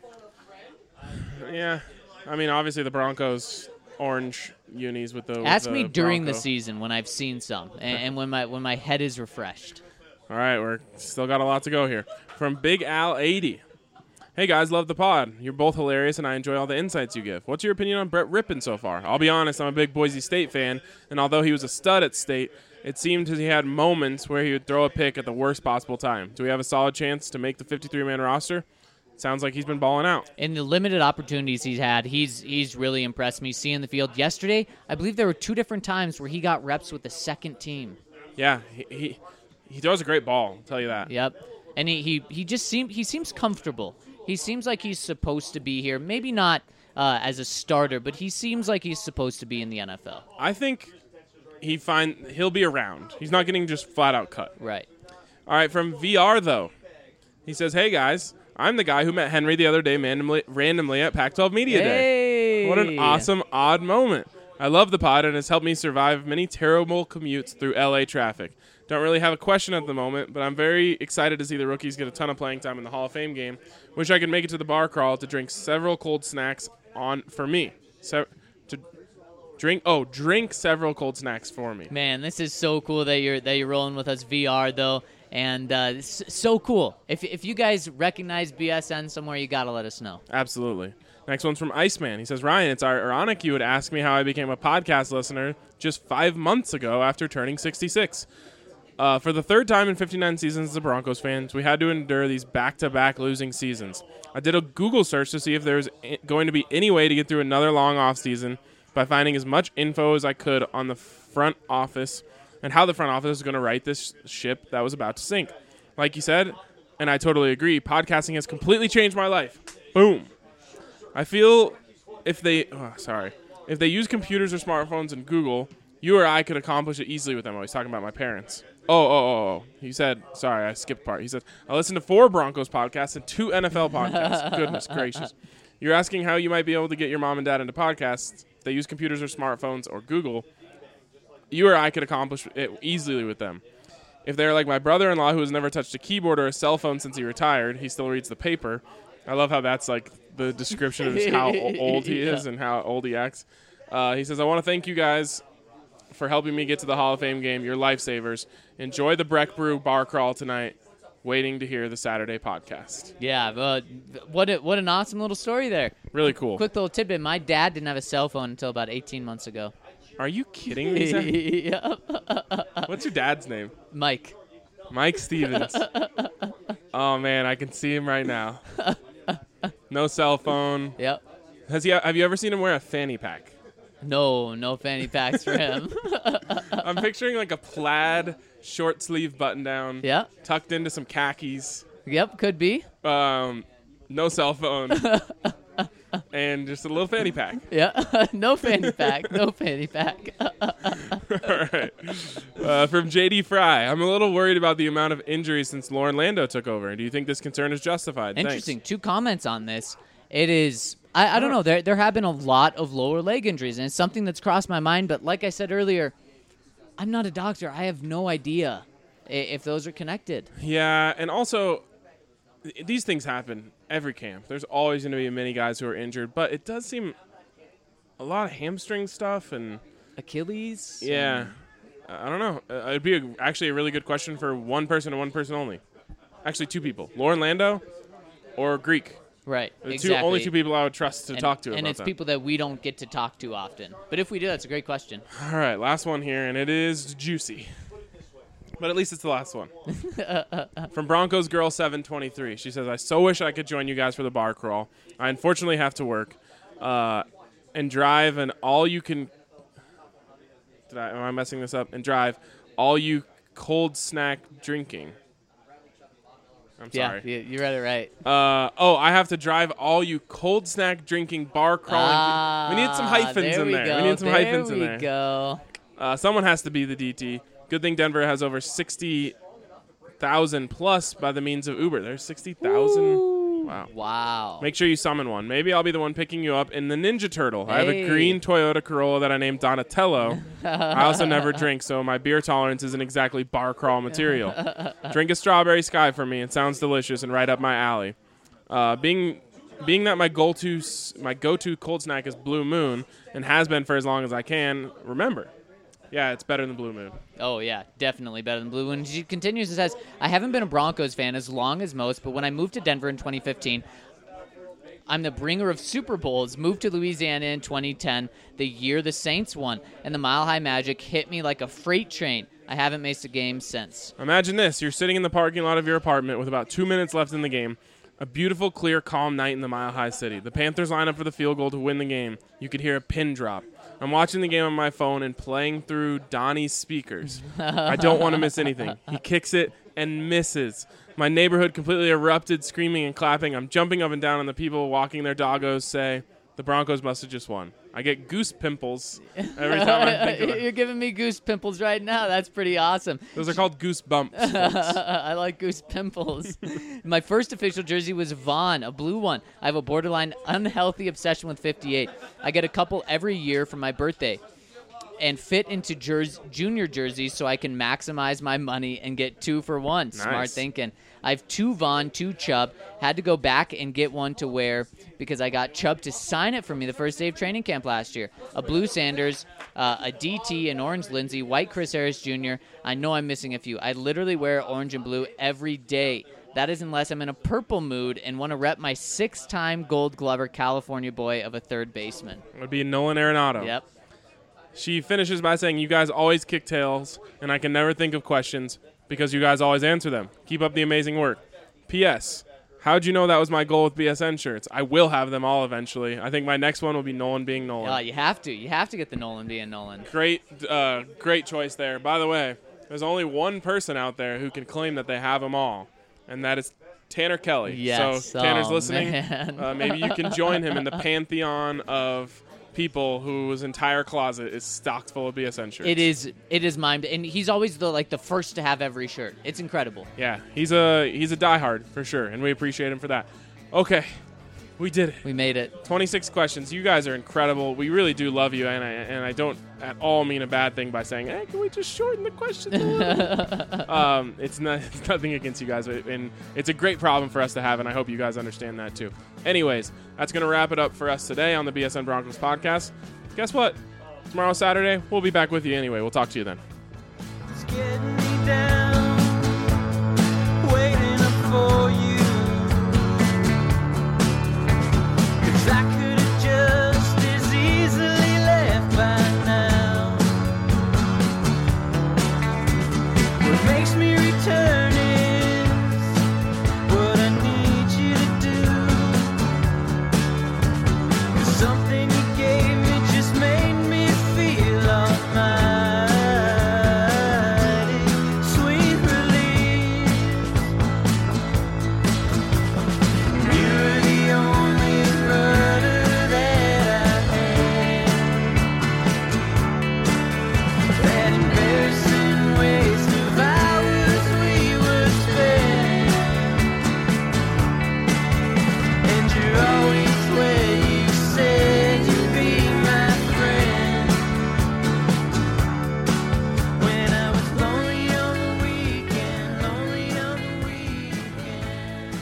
yeah, I mean, obviously the Broncos orange unis with the. Ask me during Bronco. the season when I've seen some, and when my head is refreshed. All right, we're still got a lot to go here. From Big Al 80. Hey guys, love the pod. You're both hilarious, and I enjoy all the insights you give. What's your opinion on Brett Rippon so far? I'll be honest, I'm a big Boise State fan, and although he was a stud at State, it seemed he had moments where he would throw a pick at the worst possible time. Do we have a solid chance to make the 53-man roster? Sounds like he's been balling out. In the limited opportunities he's had, he's really impressed me seeing the field. Yesterday, I believe there were 2 different times where he got reps with the second team. Yeah, he throws a great ball, I'll tell you that. Yep. And he seems comfortable. He seems like he's supposed to be here. Maybe not as a starter, but he seems like he's supposed to be in the NFL. I think he'll be around. He's not getting just flat out cut. Right. All right, from VR though. He says, "Hey guys, I'm the guy who met Henry the other day randomly at Pac-12 Media Day. What an awesome odd moment. I love the pod and it's helped me survive many terrible commutes through LA traffic. Don't really have a question at the moment, but I'm very excited to see the rookies get a ton of playing time in the Hall of Fame game. Wish I could make it to the bar crawl to drink several cold snacks for me. Drink several cold snacks for me. Man, this is so cool that you're rolling with us VR though, and it's so cool. If you guys recognize BSN somewhere, you gotta let us know. Absolutely. Next one's from Iceman. He says, Ryan, it's ironic you would ask me how I became a podcast listener just 5 months ago after turning 66. For the third time in 59 seasons as a Broncos fans, we had to endure these back-to-back losing seasons. I did a Google search to see if there was going to be any way to get through another long offseason by finding as much info as I could on the front office and how the front office is going to right this ship that was about to sink. Like you said, and I totally agree, podcasting has completely changed my life. Boom. I feel if they use computers or smartphones and Google, you or I could accomplish it easily with them. I was talking about my parents. Oh. He said, sorry, I skipped part. He said, I listened to 4 Broncos podcasts and 2 NFL podcasts. Goodness gracious. You're asking how you might be able to get your mom and dad into podcasts. They use computers or smartphones or Google. You or I could accomplish it easily with them. If they're like my brother-in-law who has never touched a keyboard or a cell phone since he retired, he still reads the paper. I love how that's like the description of how old he is and how old he acts. He says, I want to thank you guys for helping me get to the Hall of Fame game. You're lifesavers. Enjoy the Breck Brew bar crawl tonight. Waiting to hear the Saturday podcast. Yeah, what an awesome little story there. Really cool. Quick little tidbit. My dad didn't have a cell phone until about 18 months ago. Are you kidding me, Zach? Yep. What's your dad's name? Mike. Mike Stevens. Oh, man, I can see him right now. No cell phone. Yep. Have you ever seen him wear a fanny pack? No fanny packs for him. I'm picturing like a plaid short sleeve button down. Yeah. Tucked into some khakis. Yep, could be. No cell phone. And just a little fanny pack. Yeah. No fanny pack. No fanny pack. All right. From JD Fry, I'm a little worried about the amount of injuries since Lauren Lando took over. Do you think this concern is justified? Interesting. Thanks. 2 comments on this. It is, I don't know, there have been a lot of lower leg injuries, and it's something that's crossed my mind, but like I said earlier, I'm not a doctor. I have no idea if those are connected. Yeah, and also, these things happen every camp. There's always going to be many guys who are injured, but it does seem a lot of hamstring stuff and Achilles? Yeah. I don't know. It'd be actually a really good question for one person and one person only. Actually, 2 people. Lauren Lando or Greek. Right, The exactly. only 2 people I would trust to talk to about and it's that. people that we don't get to talk to often. But if we do, that's a great question. All right, last one here, and it is juicy. But at least it's the last one. From Broncos Girl 723. She says, I so wish I could join you guys for the bar crawl. I unfortunately have to work and drive an all you can... Am I messing this up? And drive all you cold snack drinking. I'm sorry. Yeah, you read it right. I have to drive all you cold snack drinking bar crawling. We need some hyphens in there. We need some hyphens in there. There we go. Someone has to be the DT. Good thing Denver has over 60,000 plus by the means of Uber. There's 60,000. Wow. Make sure you summon one. Maybe I'll be the one picking you up in the Ninja Turtle. I have a green Toyota Corolla that I named Donatello. I also never drink, so my beer tolerance isn't exactly bar crawl material. Drink a strawberry sky for me. It sounds delicious and right up my alley. Being that my go-to cold snack is Blue Moon and has been for as long as I can remember. Yeah, it's better than Blue Moon. Oh, yeah, definitely better than Blue Moon. She continues and says, I haven't been a Broncos fan as long as most, but when I moved to Denver in 2015, I'm the bringer of Super Bowls, moved to Louisiana in 2010, the year the Saints won, and the Mile High Magic hit me like a freight train. I haven't missed a game since. Imagine this. You're sitting in the parking lot of your apartment with about 2 minutes left in the game. A beautiful, clear, calm night in the Mile High City. The Panthers line up for the field goal to win the game. You could hear a pin drop. I'm watching the game on my phone and playing through Donnie's speakers. I don't want to miss anything. He kicks it and misses. My neighborhood completely erupted, screaming and clapping. I'm jumping up and down, and the people walking their doggos say, the Broncos must have just won. I get goose pimples every time I think of it. You're giving me goose pimples right now. That's pretty awesome. Those are called goose bumps. I like goose pimples. My first official jersey was Vaughn, a blue one. I have a borderline unhealthy obsession with 58. I get a couple every year for my birthday and fit into junior jerseys so I can maximize my money and get 2 for 1. Nice. Smart thinking. I have 2 Vaughn, 2 Chubb. Had to go back and get one to wear because I got Chubb to sign it for me the first day of training camp last year. A blue Sanders, a DT, an orange Lindsey, white Chris Harris Jr. I know I'm missing a few. I literally wear orange and blue every day. That is unless I'm in a purple mood and want to rep my 6-time Gold Glover California boy of a third baseman. It would be Nolan Arenado. Yep. She finishes by saying, you guys always kick tails, and I can never think of questions because you guys always answer them. Keep up the amazing work. P.S. How'd you know that was my goal with BSN shirts? I will have them all eventually. I think my next one will be Nolan being Nolan. You have to. You have to get the Nolan being Nolan. Great choice there. By the way, there's only one person out there who can claim that they have them all, and that is Tanner Kelly. Yes. So Tanner's Oh, listening. man. Maybe you can join him in the pantheon of people whose entire closet is stocked full of BSN shirts. It is mimed, and he's always the first to have every shirt. It's incredible. Yeah, he's a diehard for sure, and we appreciate him for that. Okay, we did it. We made it. 26 questions. You guys are incredible. We really do love you, and I don't at all mean a bad thing by saying, hey, can we just shorten the questions a little? It's nothing against you guys, and it's a great problem for us to have, and I hope you guys understand that too. Anyways, that's going to wrap it up for us today on the BSN Broncos podcast. Guess what? Tomorrow, Saturday, we'll be back with you anyway. We'll talk to you then. It's getting me down, waiting up for you. 'Cause I could have just as easily left by now. What makes me return is what I need you to do. 'Cause something you gave me just made me feel almighty. Sweet relief. You're the only brother that I had. That embarrassing waste of hours we would spend. And you're always where you said you'd be my friend. When I was lonely on the weekend, lonely on the weekend.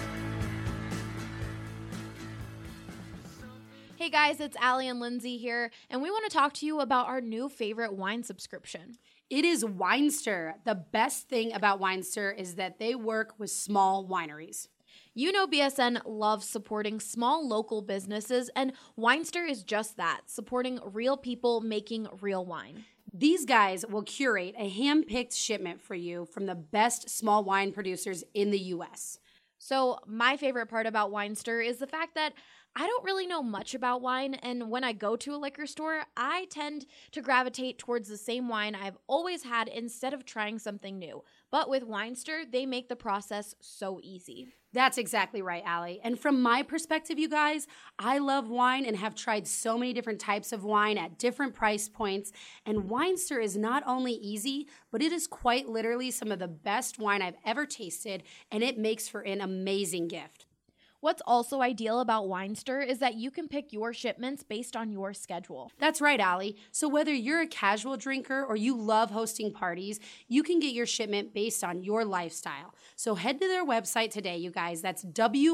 Hey guys, it's Allie and Lindsay here, and we want to talk to you about our new favorite wine subscription. It is Winester. The best thing about Winester is that they work with small wineries. You know BSN loves supporting small local businesses, and Winester is just that, supporting real people making real wine. These guys will curate a hand-picked shipment for you from the best small wine producers in the U.S. So my favorite part about Winester is the fact that I don't really know much about wine, and when I go to a liquor store, I tend to gravitate towards the same wine I've always had instead of trying something new. But with Winester, they make the process so easy. That's exactly right, Allie. And from my perspective, you guys, I love wine and have tried so many different types of wine at different price points. And Winester is not only easy, but it is quite literally some of the best wine I've ever tasted, and it makes for an amazing gift. What's also ideal about Winester is that you can pick your shipments based on your schedule. That's right, Allie. So whether you're a casual drinker or you love hosting parties, you can get your shipment based on your lifestyle. So head to their website today, you guys. That's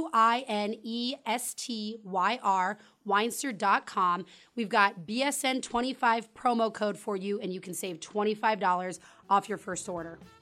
WINESTYR, Winester.com. We've got BSN25 promo code for you, and you can save $25 off your first order.